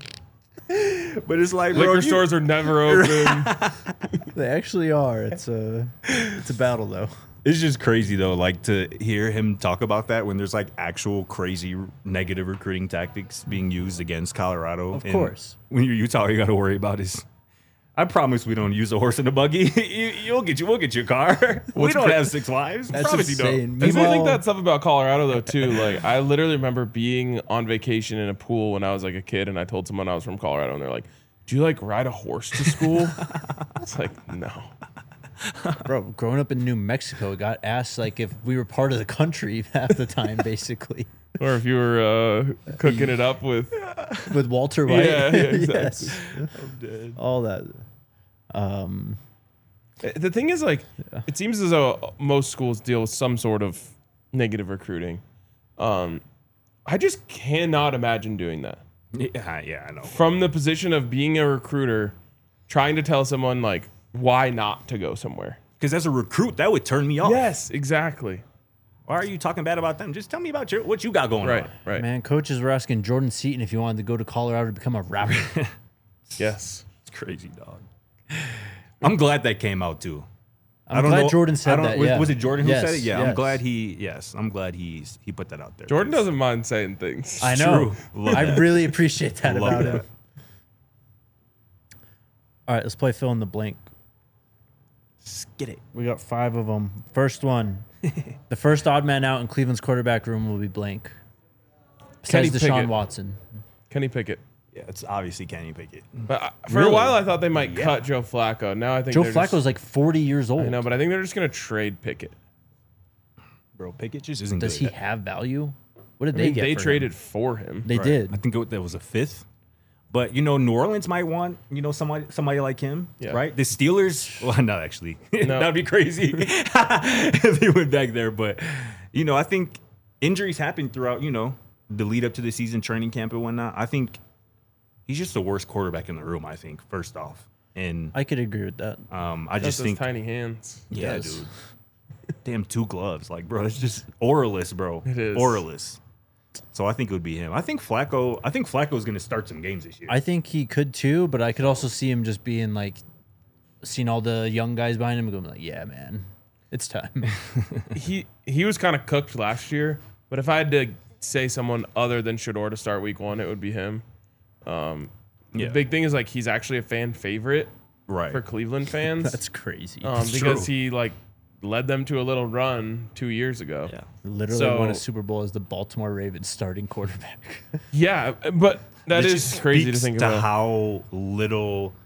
But it's like, liquor bro, you- stores are never open. They actually are. It's a, it's a battle, though. It's just crazy though, like to hear him talk about that when there's like actual crazy negative recruiting tactics being used against Colorado. Of And course. when you're Utah, all you got to worry about is, I promise we don't use a horse and a buggy. you, you'll get you, we'll get you a car. we What's don't cra- have six wives. That's promise insane. you don't. I think Meanwhile- that stuff about Colorado though too. Like I literally remember being on vacation in a pool when I was like a kid, and I told someone I was from Colorado, and they're like, "Do you like ride a horse to school?" It's like, no. Bro, growing up in New Mexico, got asked like if we were part of the country half the time, basically. Or if you were uh, cooking it up with, With Walter White. yeah, yeah, exactly. Yes. I'm dead. All that. Um, The thing is, like, it seems as though most schools deal with some sort of negative recruiting. Um, I just cannot imagine doing that. Yeah, yeah, I know. From the position of being a recruiter, trying to tell someone, like, why not to go somewhere. Because as a recruit, that would turn me off. Yes, exactly. Why are you talking bad about them? Just tell me about your what you got going Right, on. right. Man, coaches were asking Jordan Seaton if he wanted to go to Colorado to become a rapper. Yes. It's crazy, dog. I'm glad that came out too. I'm I don't glad know, Jordan said I don't- that. Was, yeah. was it Jordan who Yes, said it? Yeah, yes. I'm glad he. Yes, I'm glad he's he put that out there. Jordan doesn't mind saying things. I know. True. Love I that. really appreciate that Love about that. him. All right, let's play fill in the blank. Get it. We got five of them. First one. The first odd man out in Cleveland's quarterback room will be blank. Kenny Besides Deshaun Pickett. Watson. Kenny Pickett. Yeah, it's obviously Kenny Pickett. But I, for Really? a while, I thought they might Yeah. cut Joe Flacco. Now I think Joe they're Flacco's just, like forty years old. I know, but I think they're just going to trade Pickett. Bro, Pickett just isn't Does good. he have value? What did I they mean, get? they for traded him? for him. They Right. did. I think it, that was a fifth. But you know, New Orleans might want you know somebody somebody like him, Yeah. right? The Steelers, well, not actually. No. That'd be crazy if he went back there. But you know, I think injuries happen throughout. You know, the lead up to the season, training camp and whatnot. I think he's just the worst quarterback in the room. I think first off, and I could agree with that. um, I Just just those think, tiny hands. yeah, Yes. dude, damn two gloves, like bro, it's just oralist, bro. It is. oralist. So I think it would be him. I think Flacco. I think Flacco is going to start some games this year. I think he could too, but I could also see him just being like, seeing all the young guys behind him and going like, yeah, man, it's time. He he was kind of cooked last year, but if I had to say someone other than Shador to start week one, it would be him. Um, Yeah. The big thing is like he's actually a fan favorite right. for Cleveland fans. That's crazy. um, That's because true. he like led them to a little run two years ago. Yeah. Literally so- won a Super Bowl as the Baltimore Ravens starting quarterback. Yeah, but that This is just crazy to speaks think to about. how little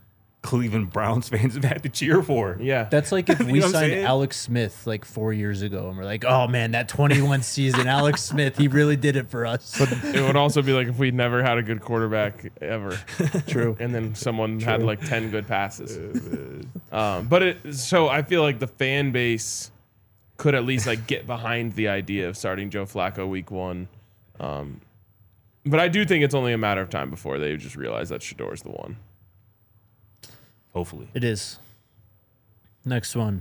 Cleveland Browns fans have had to cheer for. Yeah. That's like if You we know what I'm signed saying? Alex Smith like four years ago and we're like, oh man, that twenty-one season, Alex Smith, he really did it for us. It would also be like if we'd never had a good quarterback ever. True. And then someone had like ten good passes. Um, but it, so I feel like the fan base could at least like get behind the idea of starting Joe Flacco week one. Um, but I do think it's only a matter of time before they just realize that Shador's the one. Hopefully. It is. Next one.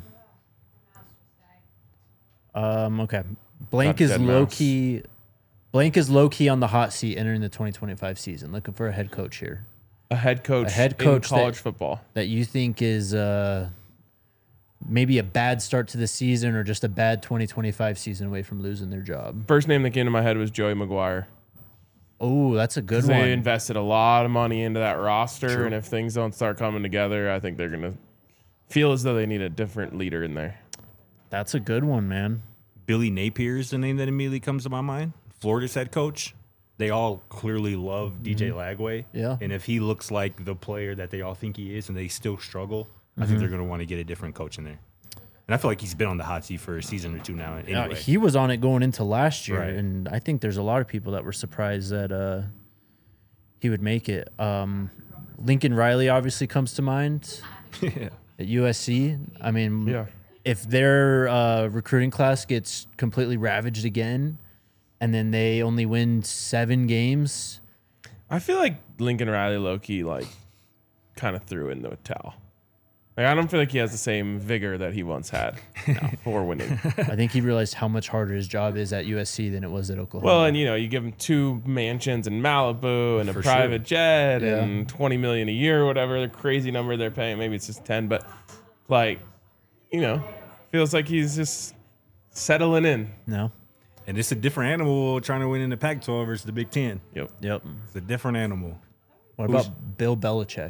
Um, okay. Blank Not is dead low mouse. key. Blank is low key on the hot seat entering the twenty twenty-five season. Looking for a head coach here A head coach, A head coach in college that- football. that you think is uh, maybe a bad start to the season or just a bad twenty twenty-five season away from losing their job. First name that came to my head was Joey Maguire. Oh, that's a good They one. invested a lot of money into that roster, True. and if things don't start coming together, I think they're going to feel as though they need a different leader in there. That's a good one, man. Billy Napier is the name that immediately comes to my mind. Florida's head coach. They all clearly love D J Lagway. Yeah. And if he looks like the player that they all think he is and they still struggle, I Mm-hmm. think they're going to want to get a different coach in there. And I feel like he's been on the hot seat for a season or two now anyway. Uh, he was on it going into last year, Right. and I think there's a lot of people that were surprised that uh, he would make it. Um, Lincoln Riley obviously comes to mind yeah. at U S C. I mean, Yeah. if their uh, recruiting class gets completely ravaged again, and then they only win seven games, I feel like Lincoln Riley low-key, like, kind of threw in the towel. Like, I don't feel like he has the same vigor that he once had for winning. I think he realized how much harder his job is at U S C than it was at Oklahoma. Well, and, you know, you give him two mansions in Malibu and a For private sure. jet Yeah. and twenty million dollars a year or whatever, the crazy number they're paying. Maybe it's just ten, but, like, you know, feels like he's just settling in. no. And it's a different animal trying to win in the Pac twelve versus the Big Ten. Yep. Yep. It's a different animal. What about Bill Belichick?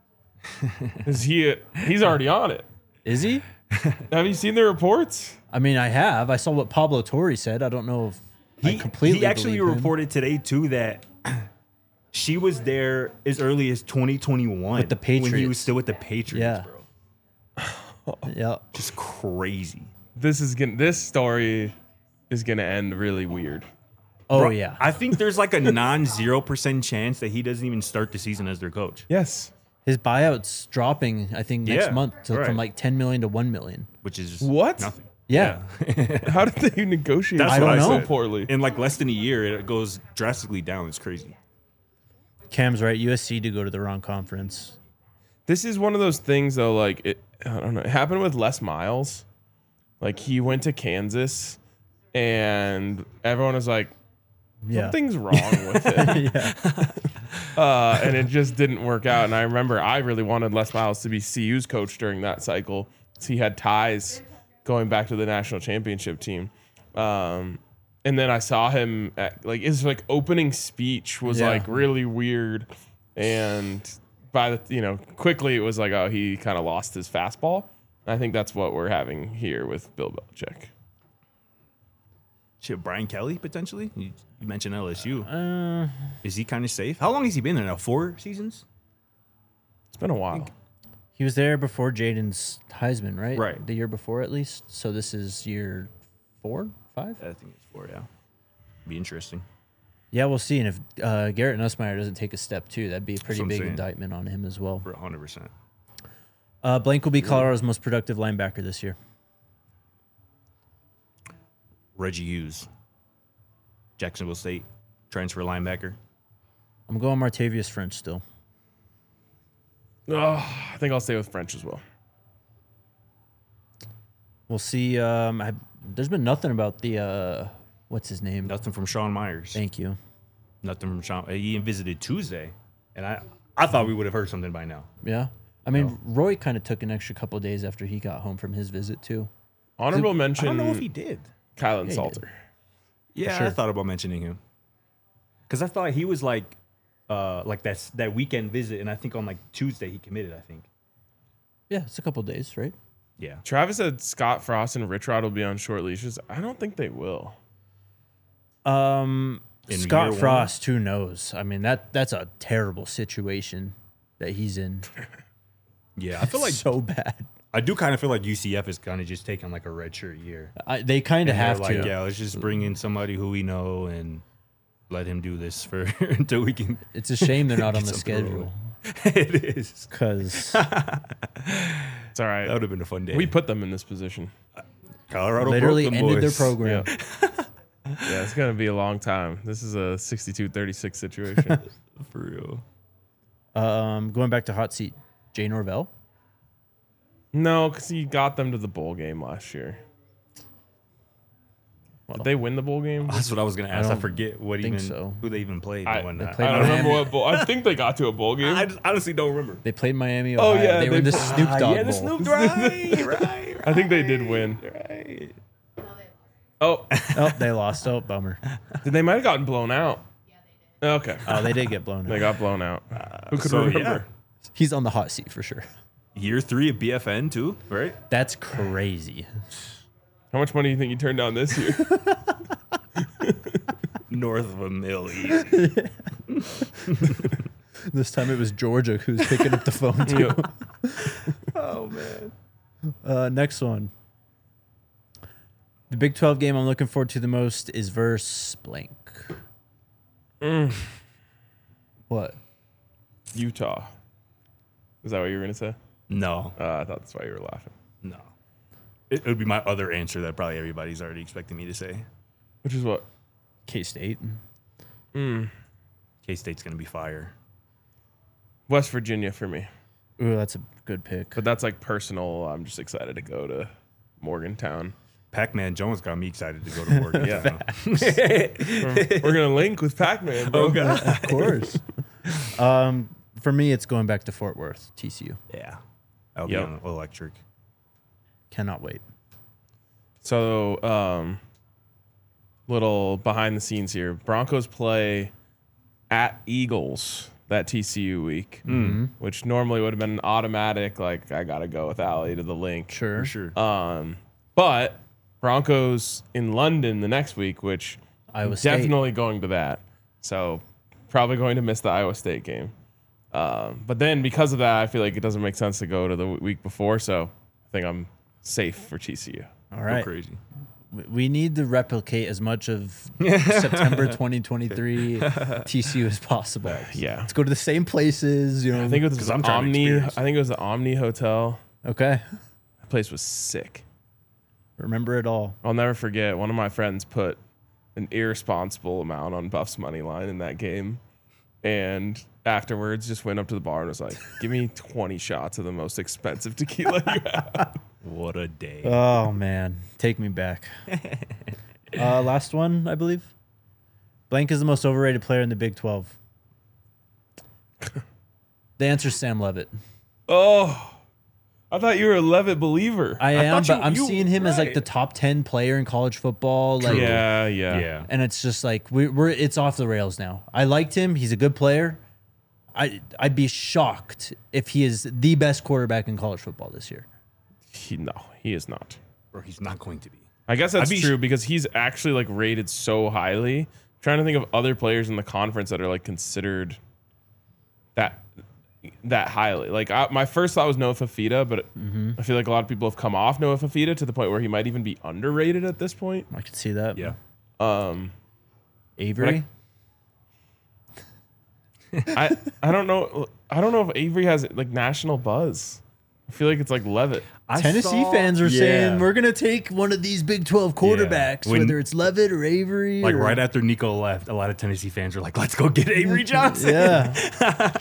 Is he, he's already on it. Is he? Have you seen the reports? I mean, I have. I saw what Pablo Torre said. I don't know if I He, completely he actually believe him. reported today, too, that she was there as early as twenty twenty-one. With the When he Patriots. was still with the Patriots, Yeah. bro. Yeah. Just crazy. This is gonna, this story is going to end really weird. Oh Bro, yeah. I think there's like a non zero percent chance that he doesn't even start the season as their coach, Yes. His buyout's dropping. I think next Yeah, month to, right. from like ten million to one million. which is just What? nothing. Yeah. How did they negotiate That's I what don't I know. so said. poorly? In like less than a year, it goes drastically down. It's crazy. Cam's right. U S C to go to the wrong conference. This is one of those things, though. Like it, I don't know. It happened with Les Miles. Like he went to Kansas, and everyone was like, Yeah. "Something's wrong with it," yeah. uh, and it just didn't work out. And I remember I really wanted Les Miles to be C U's coach during that cycle, because he had ties going back to the national championship team. Um, and then I saw him at, like his like opening speech was Yeah. like really weird, and by the you know quickly it was like, oh, he kind of lost his fastball. I think that's what we're having here with Bill Belichick. Shit, Brian Kelly potentially. You, you mentioned L S U. Uh, Is he kind of safe? How long has he been there now? Four seasons. It's been a while. he was there before Jaden's Heisman, right? Right. The year before, at least. So this is year four, five. I think it's four. Yeah, be interesting. Yeah, we'll see. And if uh, Garrett Nussmeier doesn't take a step too, that'd be a pretty what I'm big saying. indictment on him as well. For hundred percent. Uh, Blank will be Colorado's most productive linebacker this year. Reggie Hughes, Jacksonville State transfer linebacker. I'm going Martavius French still. Oh, I think I'll stay with French as well. We'll see. Um, I, there's been nothing about the uh, what's his name? Nothing from Sean Myers. Thank you. Nothing from Sean. He visited Tuesday, and I I thought we would have heard something by now. Yeah. I mean, Roy kind of took an extra couple of days after he got home from his visit too. Honorable I mention: don't know if he did. Kylan he Salter. Yeah, sure. I thought about mentioning him because I thought he was like, uh, like that that weekend visit, and I think on like Tuesday he committed. I think. Yeah, it's a couple of days, right? Yeah. Travis said Scott Frost and Rich Rod will be on short leashes. I don't think they will. Um, In year Scott one? Frost, who knows? I mean, that that's a terrible situation that he's in. Yeah, I feel like so bad. I do kind of feel like U C F is kind of just taking like a redshirt year. I, they kind of And they're have like, to. yeah, let's just bring in somebody who we know and let him do this for until we can. It's a shame they're not on Get the some parole. schedule It is. because It's all right. That would have been a fun day. We put them in this position. Colorado literally broke them ended their boys. program. Yeah, it's gonna be a long time. This is a sixty-two thirty-six situation. for real. Um, going back to hot seat, Jay Norvell. No, because he got them to the bowl game last year. Did they win the bowl game? That's what I was gonna ask. I, don't forget what think even so. who they even played. I, and whatnot. played I don't remember Miami. what bowl. I think they got to a bowl game. I just honestly don't remember. They played Miami. Oh, Ohio. yeah, they were they in the played- Snoop Ah, Dogg yeah, the Bowl. Snoop right, right, right. I think they did win. Right. Oh, Oh, they lost. Oh, bummer. they might have gotten blown out. Okay, Oh, they did get blown they out. got blown out. Who could so, remember? He's on the hot seat for sure. Year three of B F N too, right? That's crazy. How much money do you think you turned down this year? North of a mill. Easy. This time it was Georgia who's picking up the phone too. Yep. Oh man. Uh, next one. The Big twelve game I'm looking forward to the most is versus blank. Mm. What? Utah. Is that what you were gonna say? No, Uh, I thought that's why you were laughing. no. It, it would be my other answer that probably everybody's already expecting me to say. Which is what? K-State. Mm. K State's gonna be fire. West Virginia for me, Ooh, that's a good pick. but that's like personal. I'm just excited to go to Morgantown. Pac-Man Jones got me excited to go to Morgan. Yeah. we're, we're gonna link with Pac-Man, bro. Oh god. Of course. um, for me, it's going back to Fort Worth, T C U. Yeah. That'll Yep. be on electric. Cannot wait. So, um, little behind the scenes here. Broncos play at Eagles that T C U week, which normally would have been an automatic, like, I got to go with Allie to the link. Sure. For sure. Um, but Broncos in London the next week, which Iowa State. definitely going to that. So, probably going to miss the Iowa State game. Um, but then because of that, I feel like it doesn't make sense to go to the week before. So, I think I'm safe for T C U. All Go right. crazy. We- We need to replicate as much of September twenty twenty-three T C U as possible. Yeah. Let's go to the same places. You know. I think it was 'Cause the I'm trying to Omni. I experience. think it was the Omni Hotel. Okay. That place was sick. Remember it all. I'll never forget. One of my friends put an irresponsible amount on Buff's money line in that game, and afterwards just went up to the bar and was like, "Give me twenty shots of the most expensive tequila you have." What a day. Oh man, take me back. uh, last one, I believe. Blank is the most overrated player in the Big twelve. The answer is Sam Levitt. Oh, I thought you were a Levitt believer. I am, thought but you- I'm you- seeing him as like right. the top ten player in college football. Like, yeah, yeah, yeah. and it's just like we, we're it's off the rails now. I liked him; he's a good player. I I'd be shocked if he is the best quarterback in college football this year. He, no, he is not. Or he's not going to be. I guess that's I'd be true sh- because he's actually like rated so highly. I'm trying to think of other players in the conference that are like considered that that highly. Like I, my first thought was Noah Fafita, but I feel like a lot of people have come off Noah Fafita to the point where he might even be underrated at this point. I could see that. Yeah. Um, Avery. I I don't know. I don't know if Avery has like national buzz. I feel like it's like Levitt. I Tennessee saw- fans are yeah. saying we're gonna take one of these Big twelve quarterbacks, When- whether it's Levitt or Avery. Like or- right after Nico left, a lot of Tennessee fans were like, "Let's go get Avery Johnson." Yeah.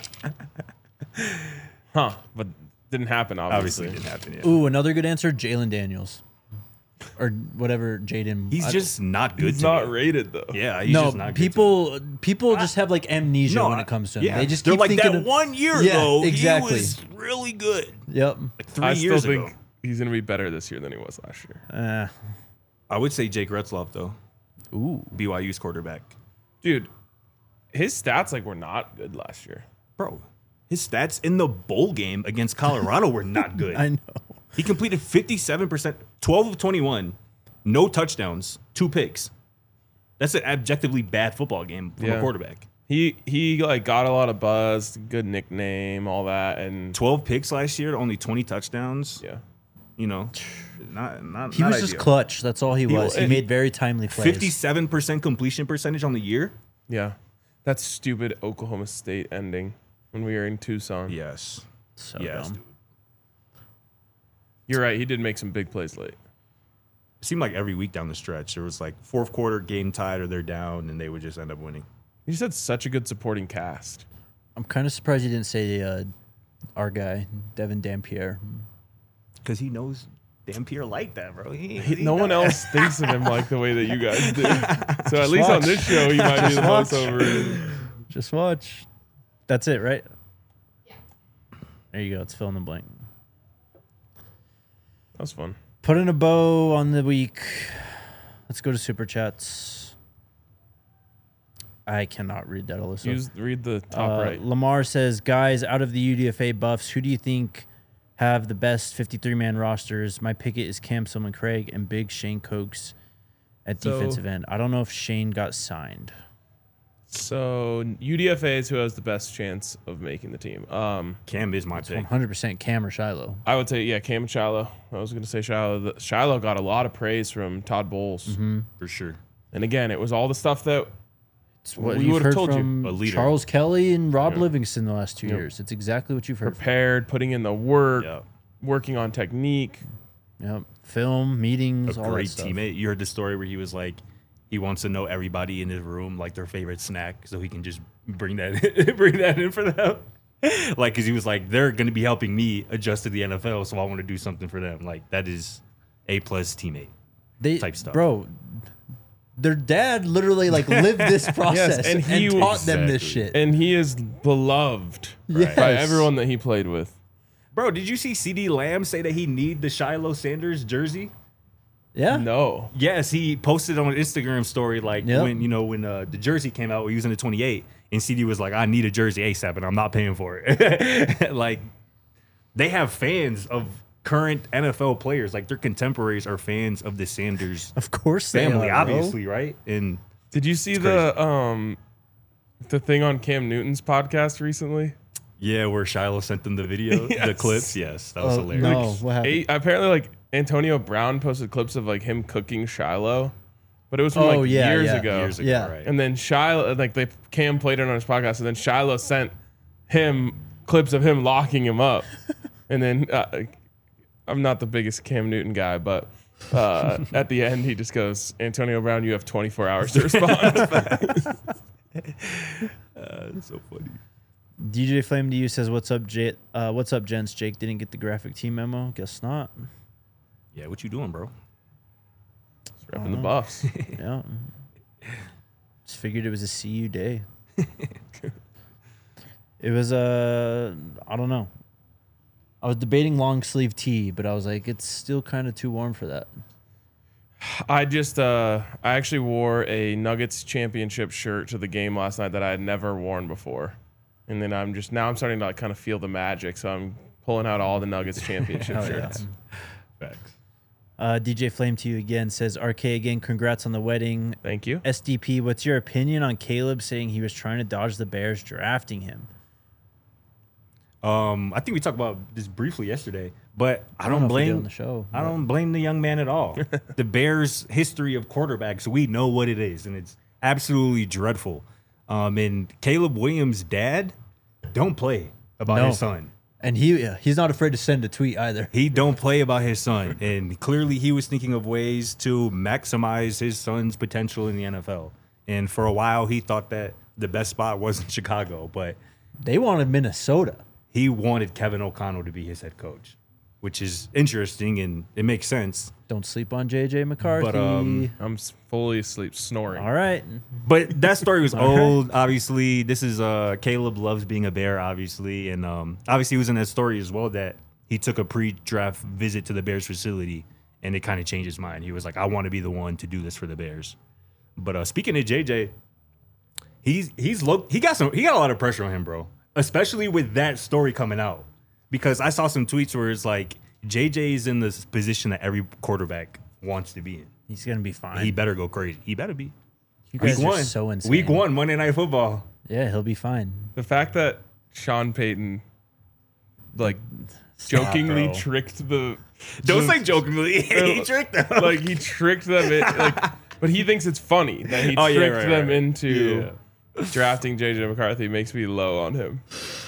Huh, but didn't happen, obviously. Obviously, it didn't happen yet. Ooh, another good answer, Jalen Daniels, or whatever Jaden. He's I- just not good. He's to not me. rated, though. Yeah, he's no just not good to me. people. People just have like amnesia No, when it comes to him. yeah. They just They're keep like thinking that of, one year Yeah, ago. exactly. He was really good. Yep. Like three I still years think ago. he's going to be better this year than he was last year. Uh, I would say Jake Retzloff though, ooh. B Y U's quarterback. Dude, his stats like were not good last year. Bro, his stats in the bowl game against Colorado were not good. I know. He completed fifty-seven percent, twelve of twenty-one, no touchdowns, two picks. That's an objectively bad football game from Yeah. a quarterback. He he like got a lot of buzz, good nickname, all that, and twelve picks last year, only twenty touchdowns. yeah. You know, not not. He not was just ideal. clutch. That's all he was. He and- made very timely plays. fifty-seven percent completion percentage on the year. Yeah. That stupid Oklahoma State ending when we were in Tucson. Yes. So yes. dumb. Dude. You're right. He did make some big plays late. It seemed like every week down the stretch, there was like fourth quarter game tied or they're down, and they would just end up winning. He just had such a good supporting cast. I'm kind of surprised you didn't say uh, our guy, Devin Dampier. Because he knows Dampier like that, bro. He, He- he no one know- else thinks of him like the way that you guys do. So at least on watch. this show, he might be the most watch. overrated. Just watch. That's it, right? There you go. It's fill in the blank. That was fun. Putting a bow on the week. Let's go to Super Chats. I cannot read that, Alyssa. Use read the top Uh, right. Lamar says, guys, out of the U D F A buffs, who do you think have the best fifty-three man rosters? My picket is Cam Sillman Craig and Big Shane Cokes at So- defensive end. I don't know if Shane got signed. So U D F A is who has the best chance of making the team. Um, Cam is my pick. one hundred percent Cam or Shiloh. I would say yeah, Cam and Shiloh. I was going to say Shiloh. The- Shiloh got a lot of praise from Todd Bowles, Mm-hmm. For sure. and again, it was all the stuff that It's what We you've would've heard told you. from A leader. Charles Kelly and Rob Yeah. Livingston the last two Yep. years. It's exactly what you've heard. prepared, putting in the work, Yeah. working on technique. Yep. Film, meetings, A all great that stuff. teammate. You heard the story where he was like, he wants to know everybody in his room, like their favorite snack, so he can just bring that in, bring that in for them. Like, because he was like, they're going to be helping me adjust to the N F L, so I want to do something for them. Like, that is a plus teammate. They, type stuff. Bro, their dad literally like lived this process and and, he- taught them this Exactly. shit. And he is beloved Yes. by everyone that he played with. Bro, did you see C D Lamb say that he need the Shiloh Sanders jersey? Yeah. No. Yes, he posted on an Instagram story like Yep. when you know when uh, the jersey came out, he was in the twenty-eight, and C D was like, "I need a jersey ASAP, and I'm not paying for it." Like, they have fans of current N F L players, like their contemporaries are fans of the Sanders Of course they family, are, bro. obviously, right? And Did you see the um the thing on Cam Newton's podcast recently? yeah, where Shiloh sent them the video, the Yes. clips. Yes, that was Oh, hilarious. no, what happened? Eight, apparently, like Antonio Brown posted clips of like him cooking Shiloh, but it was from Oh, like yeah, years yeah. ago. Years ago, Yeah. right? And then Shiloh, like they Cam played it on his podcast, and then Shiloh sent him clips of him locking him up. And then uh, I'm not the biggest Cam Newton guy, but uh, at the end he just goes, "Antonio Brown, you have twenty-four hours to respond." Uh, it's so funny. D J Flame to you says, "What's up, J- uh, What's up, gents? Jake didn't get the graphic team memo. Guess not. Yeah, what you doing, bro? Repping the Buffs. Yeah. Just figured it was a C U day. It was a, uh, I don't know. I was debating long sleeve tee, but I was like, it's still kind of too warm for that. I just uh I actually wore a Nuggets championship shirt to the game last night that I had never worn before. And then I'm just now I'm starting to like kind of feel the magic, so I'm pulling out all the Nuggets championship Hell yeah. shirts. Facts. Uh, D J Flame to you again says, R K again, congrats on the wedding. Thank you. S D P, what's your opinion on Caleb saying he was trying to dodge the Bears drafting him? Um, I think we talked about this briefly yesterday, but I don't don't, know if we did blame on the show, I don't blame the young man at all. The Bears' history of quarterbacks, we know what it is, and it's absolutely dreadful. Um, and Caleb Williams' dad don't play about No. his son. And he he's not afraid to send a tweet either. He don't play about his son, and clearly he was thinking of ways to maximize his son's potential in the N F L. And for a while, he thought that the best spot was in Chicago, but They wanted Minnesota. he wanted Kevin O'Connell to be his head coach, which is interesting and it makes sense. Don't sleep on J J McCarthy. But, um, I'm s- fully asleep snoring. All right. But that story was All right. old. Obviously, this is uh, Caleb loves being a Bear, obviously, and um, obviously he was in that story as well that he took a pre-draft visit to the Bears facility, and it kind of changed his mind. He was like, "I want to be the one to do this for the Bears." But uh, speaking of J J, he's he's low, he got some he got a lot of pressure on him, bro, especially with that story coming out, because I saw some tweets where it's like J J is in this position that every quarterback wants to be in. He's gonna be fine. He better go crazy. He better be. you Week guys are one, so insane. Week one, Monday Night Football. Yeah, he'll be fine. The fact that Sean Payton, like, jokingly bro. tricked the. Don't the- say jokingly. He tricked them. Like, he tricked them. In, like, but he thinks it's funny that he Oh, yeah, tricked right, them right. into drafting J J McCarthy. Makes me low on him.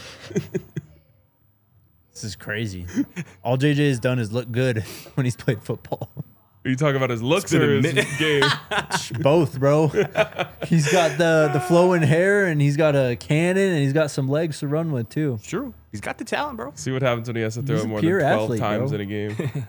This is crazy. All J J has done is look good when he's played football. Are you talking about his looks been or a his minute. game? Both, bro. He's got the the flowing hair, and he's got a cannon, and he's got some legs to run with too. True. He's got the talent, bro. See what happens when he has to throw He's it a more than pure twelve athlete, times bro. in a game.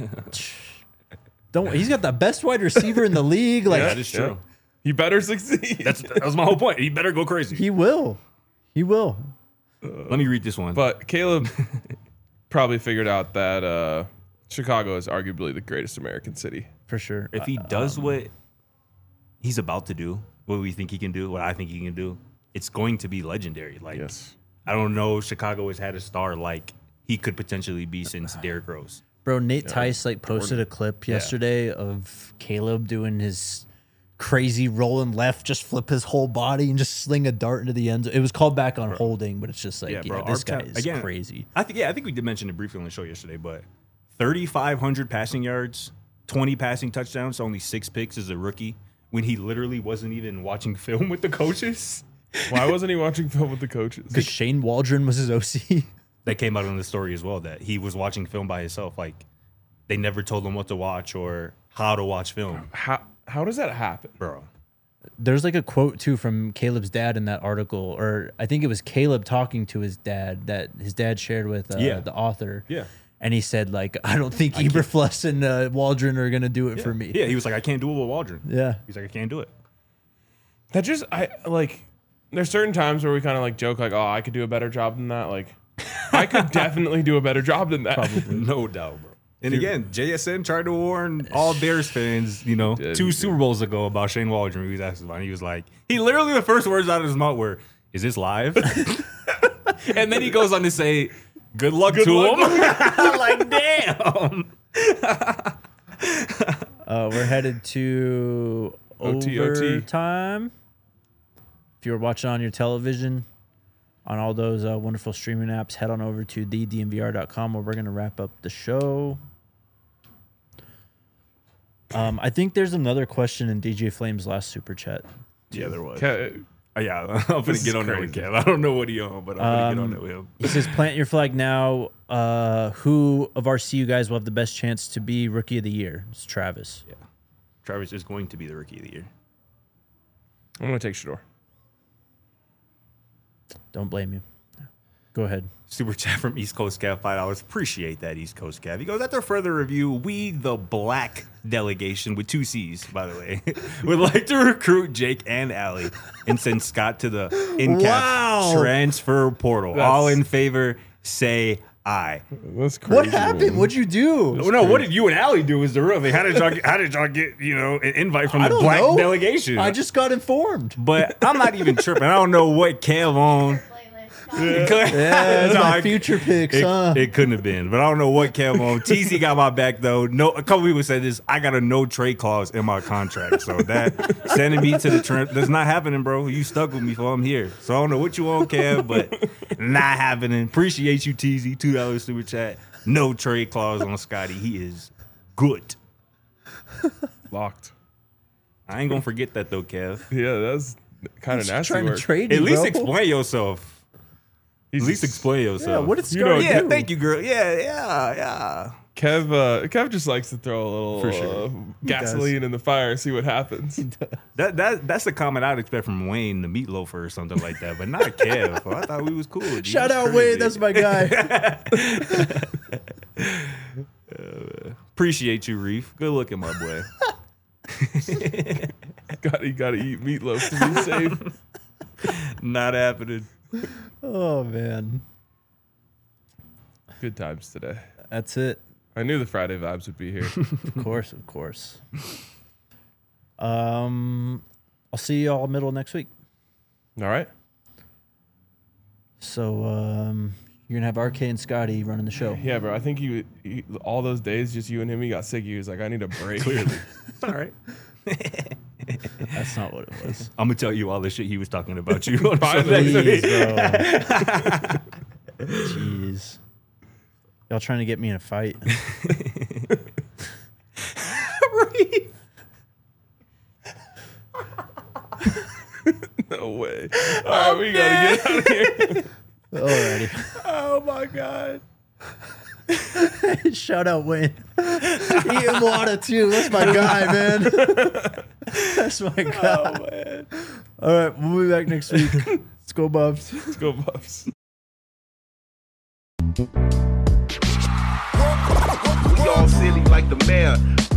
Don't. He's got the best wide receiver in the league. Like That is true. Yeah. He better succeed. That's that was my whole point. He better go crazy. he will. He will. Let me read this one. But Caleb probably figured out that uh, Chicago is arguably the greatest American city. For sure. if he does what he's about to do, what we think he can do, what I think he can do, it's going to be legendary. Like Yes. I don't know if Chicago has had a star like he could potentially be since Derrick Rose. Bro, Nate Tice like posted a clip yesterday of Caleb doing his crazy rolling left, just flip his whole body and just sling a dart into the end zone. It was called back on holding, but it's just like, yeah, Yeah, bro, this our guy ta- is again, crazy. I think yeah, I think we did mention it briefly on the show yesterday, but thirty-five hundred passing yards, twenty passing touchdowns, only six picks as a rookie when he literally wasn't even watching film with the coaches. Why wasn't he watching film with the coaches? Because Shane Waldron was his O C. That came out in the story as well, that he was watching film by himself. Like they never told him what to watch or how to watch film. How how does that happen? Bro. There's like a quote too from Caleb's dad in that article, or I think it was Caleb talking to his dad that his dad shared with uh, Yeah. the author. Yeah. And he said, like, I don't think Eberfluss and uh, Waldron are going to do it for me. Yeah, he was like, I can't do it with Waldron. Yeah. He's like, I can't do it. That just I like. There's certain times where we kind of like joke like, oh, I could do a better job than that. Like, I could definitely do a better job than that. Probably. No doubt, bro. And again, J S N tried to warn all Bears fans, you know, did, two he Super Bowls ago about Shane Waldron. He was asked about it. He was like, he literally, the first words out of his mouth were, is this live? And then he goes on to say, good luck Good to luck him. I'm like, damn. Uh, we're headed to O T, O T. overtime. If you're watching on your television, on all those uh, wonderful streaming apps, head on over to the d m v r dot com where we're going to wrap up the show. Um, I think there's another question in D J Flame's last super chat. Yeah, there was. Ca- Oh, yeah, I'm going This to get is on there with crazy. Kev. I don't know what he on, but I'm going to Um, get on there with him. He says, plant your flag now. Uh, who of our C U guys will have the best chance to be Rookie of the Year? It's Travis. Yeah. Travis is going to be the rookie of the year. I'm gonna take Shador. Don't blame you. Go ahead. Super chat from East Coast Cav, five dollars. Appreciate that, East Coast Cav. He goes, after further review, we, the black delegation, with two C's, by the way, would like to recruit Jake and Allie and send Scott to the in-cap Wow. transfer portal. That's- All in favor, say aye. That's crazy. What happened? What'd you do? Oh, no, what did you and Allie do is the real thing. How did y'all get, how did y'all get, you know, an invite from I the don't black know. delegation? I just got informed. But I'm not even tripping. I don't know what Kev on. Yeah, that's No, my I- future picks, It, huh? it couldn't have been, but I don't know what Kev on. T Z got my back though. No, a couple people said this. I got a no trade clause in my contract, so that sending me to the trend that's not happening, bro. You stuck with me, for I'm here. So I don't know what you want, Kev, but not happening. Appreciate you, T Z. Two dollars super chat. No trade clause on Scotty. He is good. Locked. I ain't gonna forget that though, Kev. Yeah, that's kind of He's nasty trying work. to trade At you, least bro. explain yourself. At He's least explain yourself. Yeah, what did You know, Scotty Yeah, do? thank you, girl. Yeah, yeah, yeah. Kev, uh, Kev just likes to throw a little For sure. uh, gasoline in the fire and see what happens. That that that's the comment I'd expect from Wayne, the meatloafer or something like that, but not Kev. I thought we was cool. Dude. Shout That's out crazy. Wade, that's my guy. Appreciate you, Reef. Good looking, my boy. got you got to eat meatloaf to be safe. Not happening. Oh man, Good times today. that's it. I knew the Friday vibes would be here. Of course, of course. Um, I'll see you all middle next week. All right. So um, you're gonna have R K and Scotty running the show. Yeah, bro. I think he, he all those days, just you and him, he got sick. He was like, I need a break. Clearly. All right. That's not what it was. I'm gonna tell you all the shit he was talking about you. on Bye, Sunday. Please, bro. Jeez. Y'all trying to get me in a fight? No way. All right, we gotta get out of here. Alrighty. Oh my god. Shout out Wayne. Ian Water too. That's my guy, man. That's my guy. Oh man. All right, we'll be back next week. Let's go, Buffs. Let's go, Buffs. We all silly like the mayor.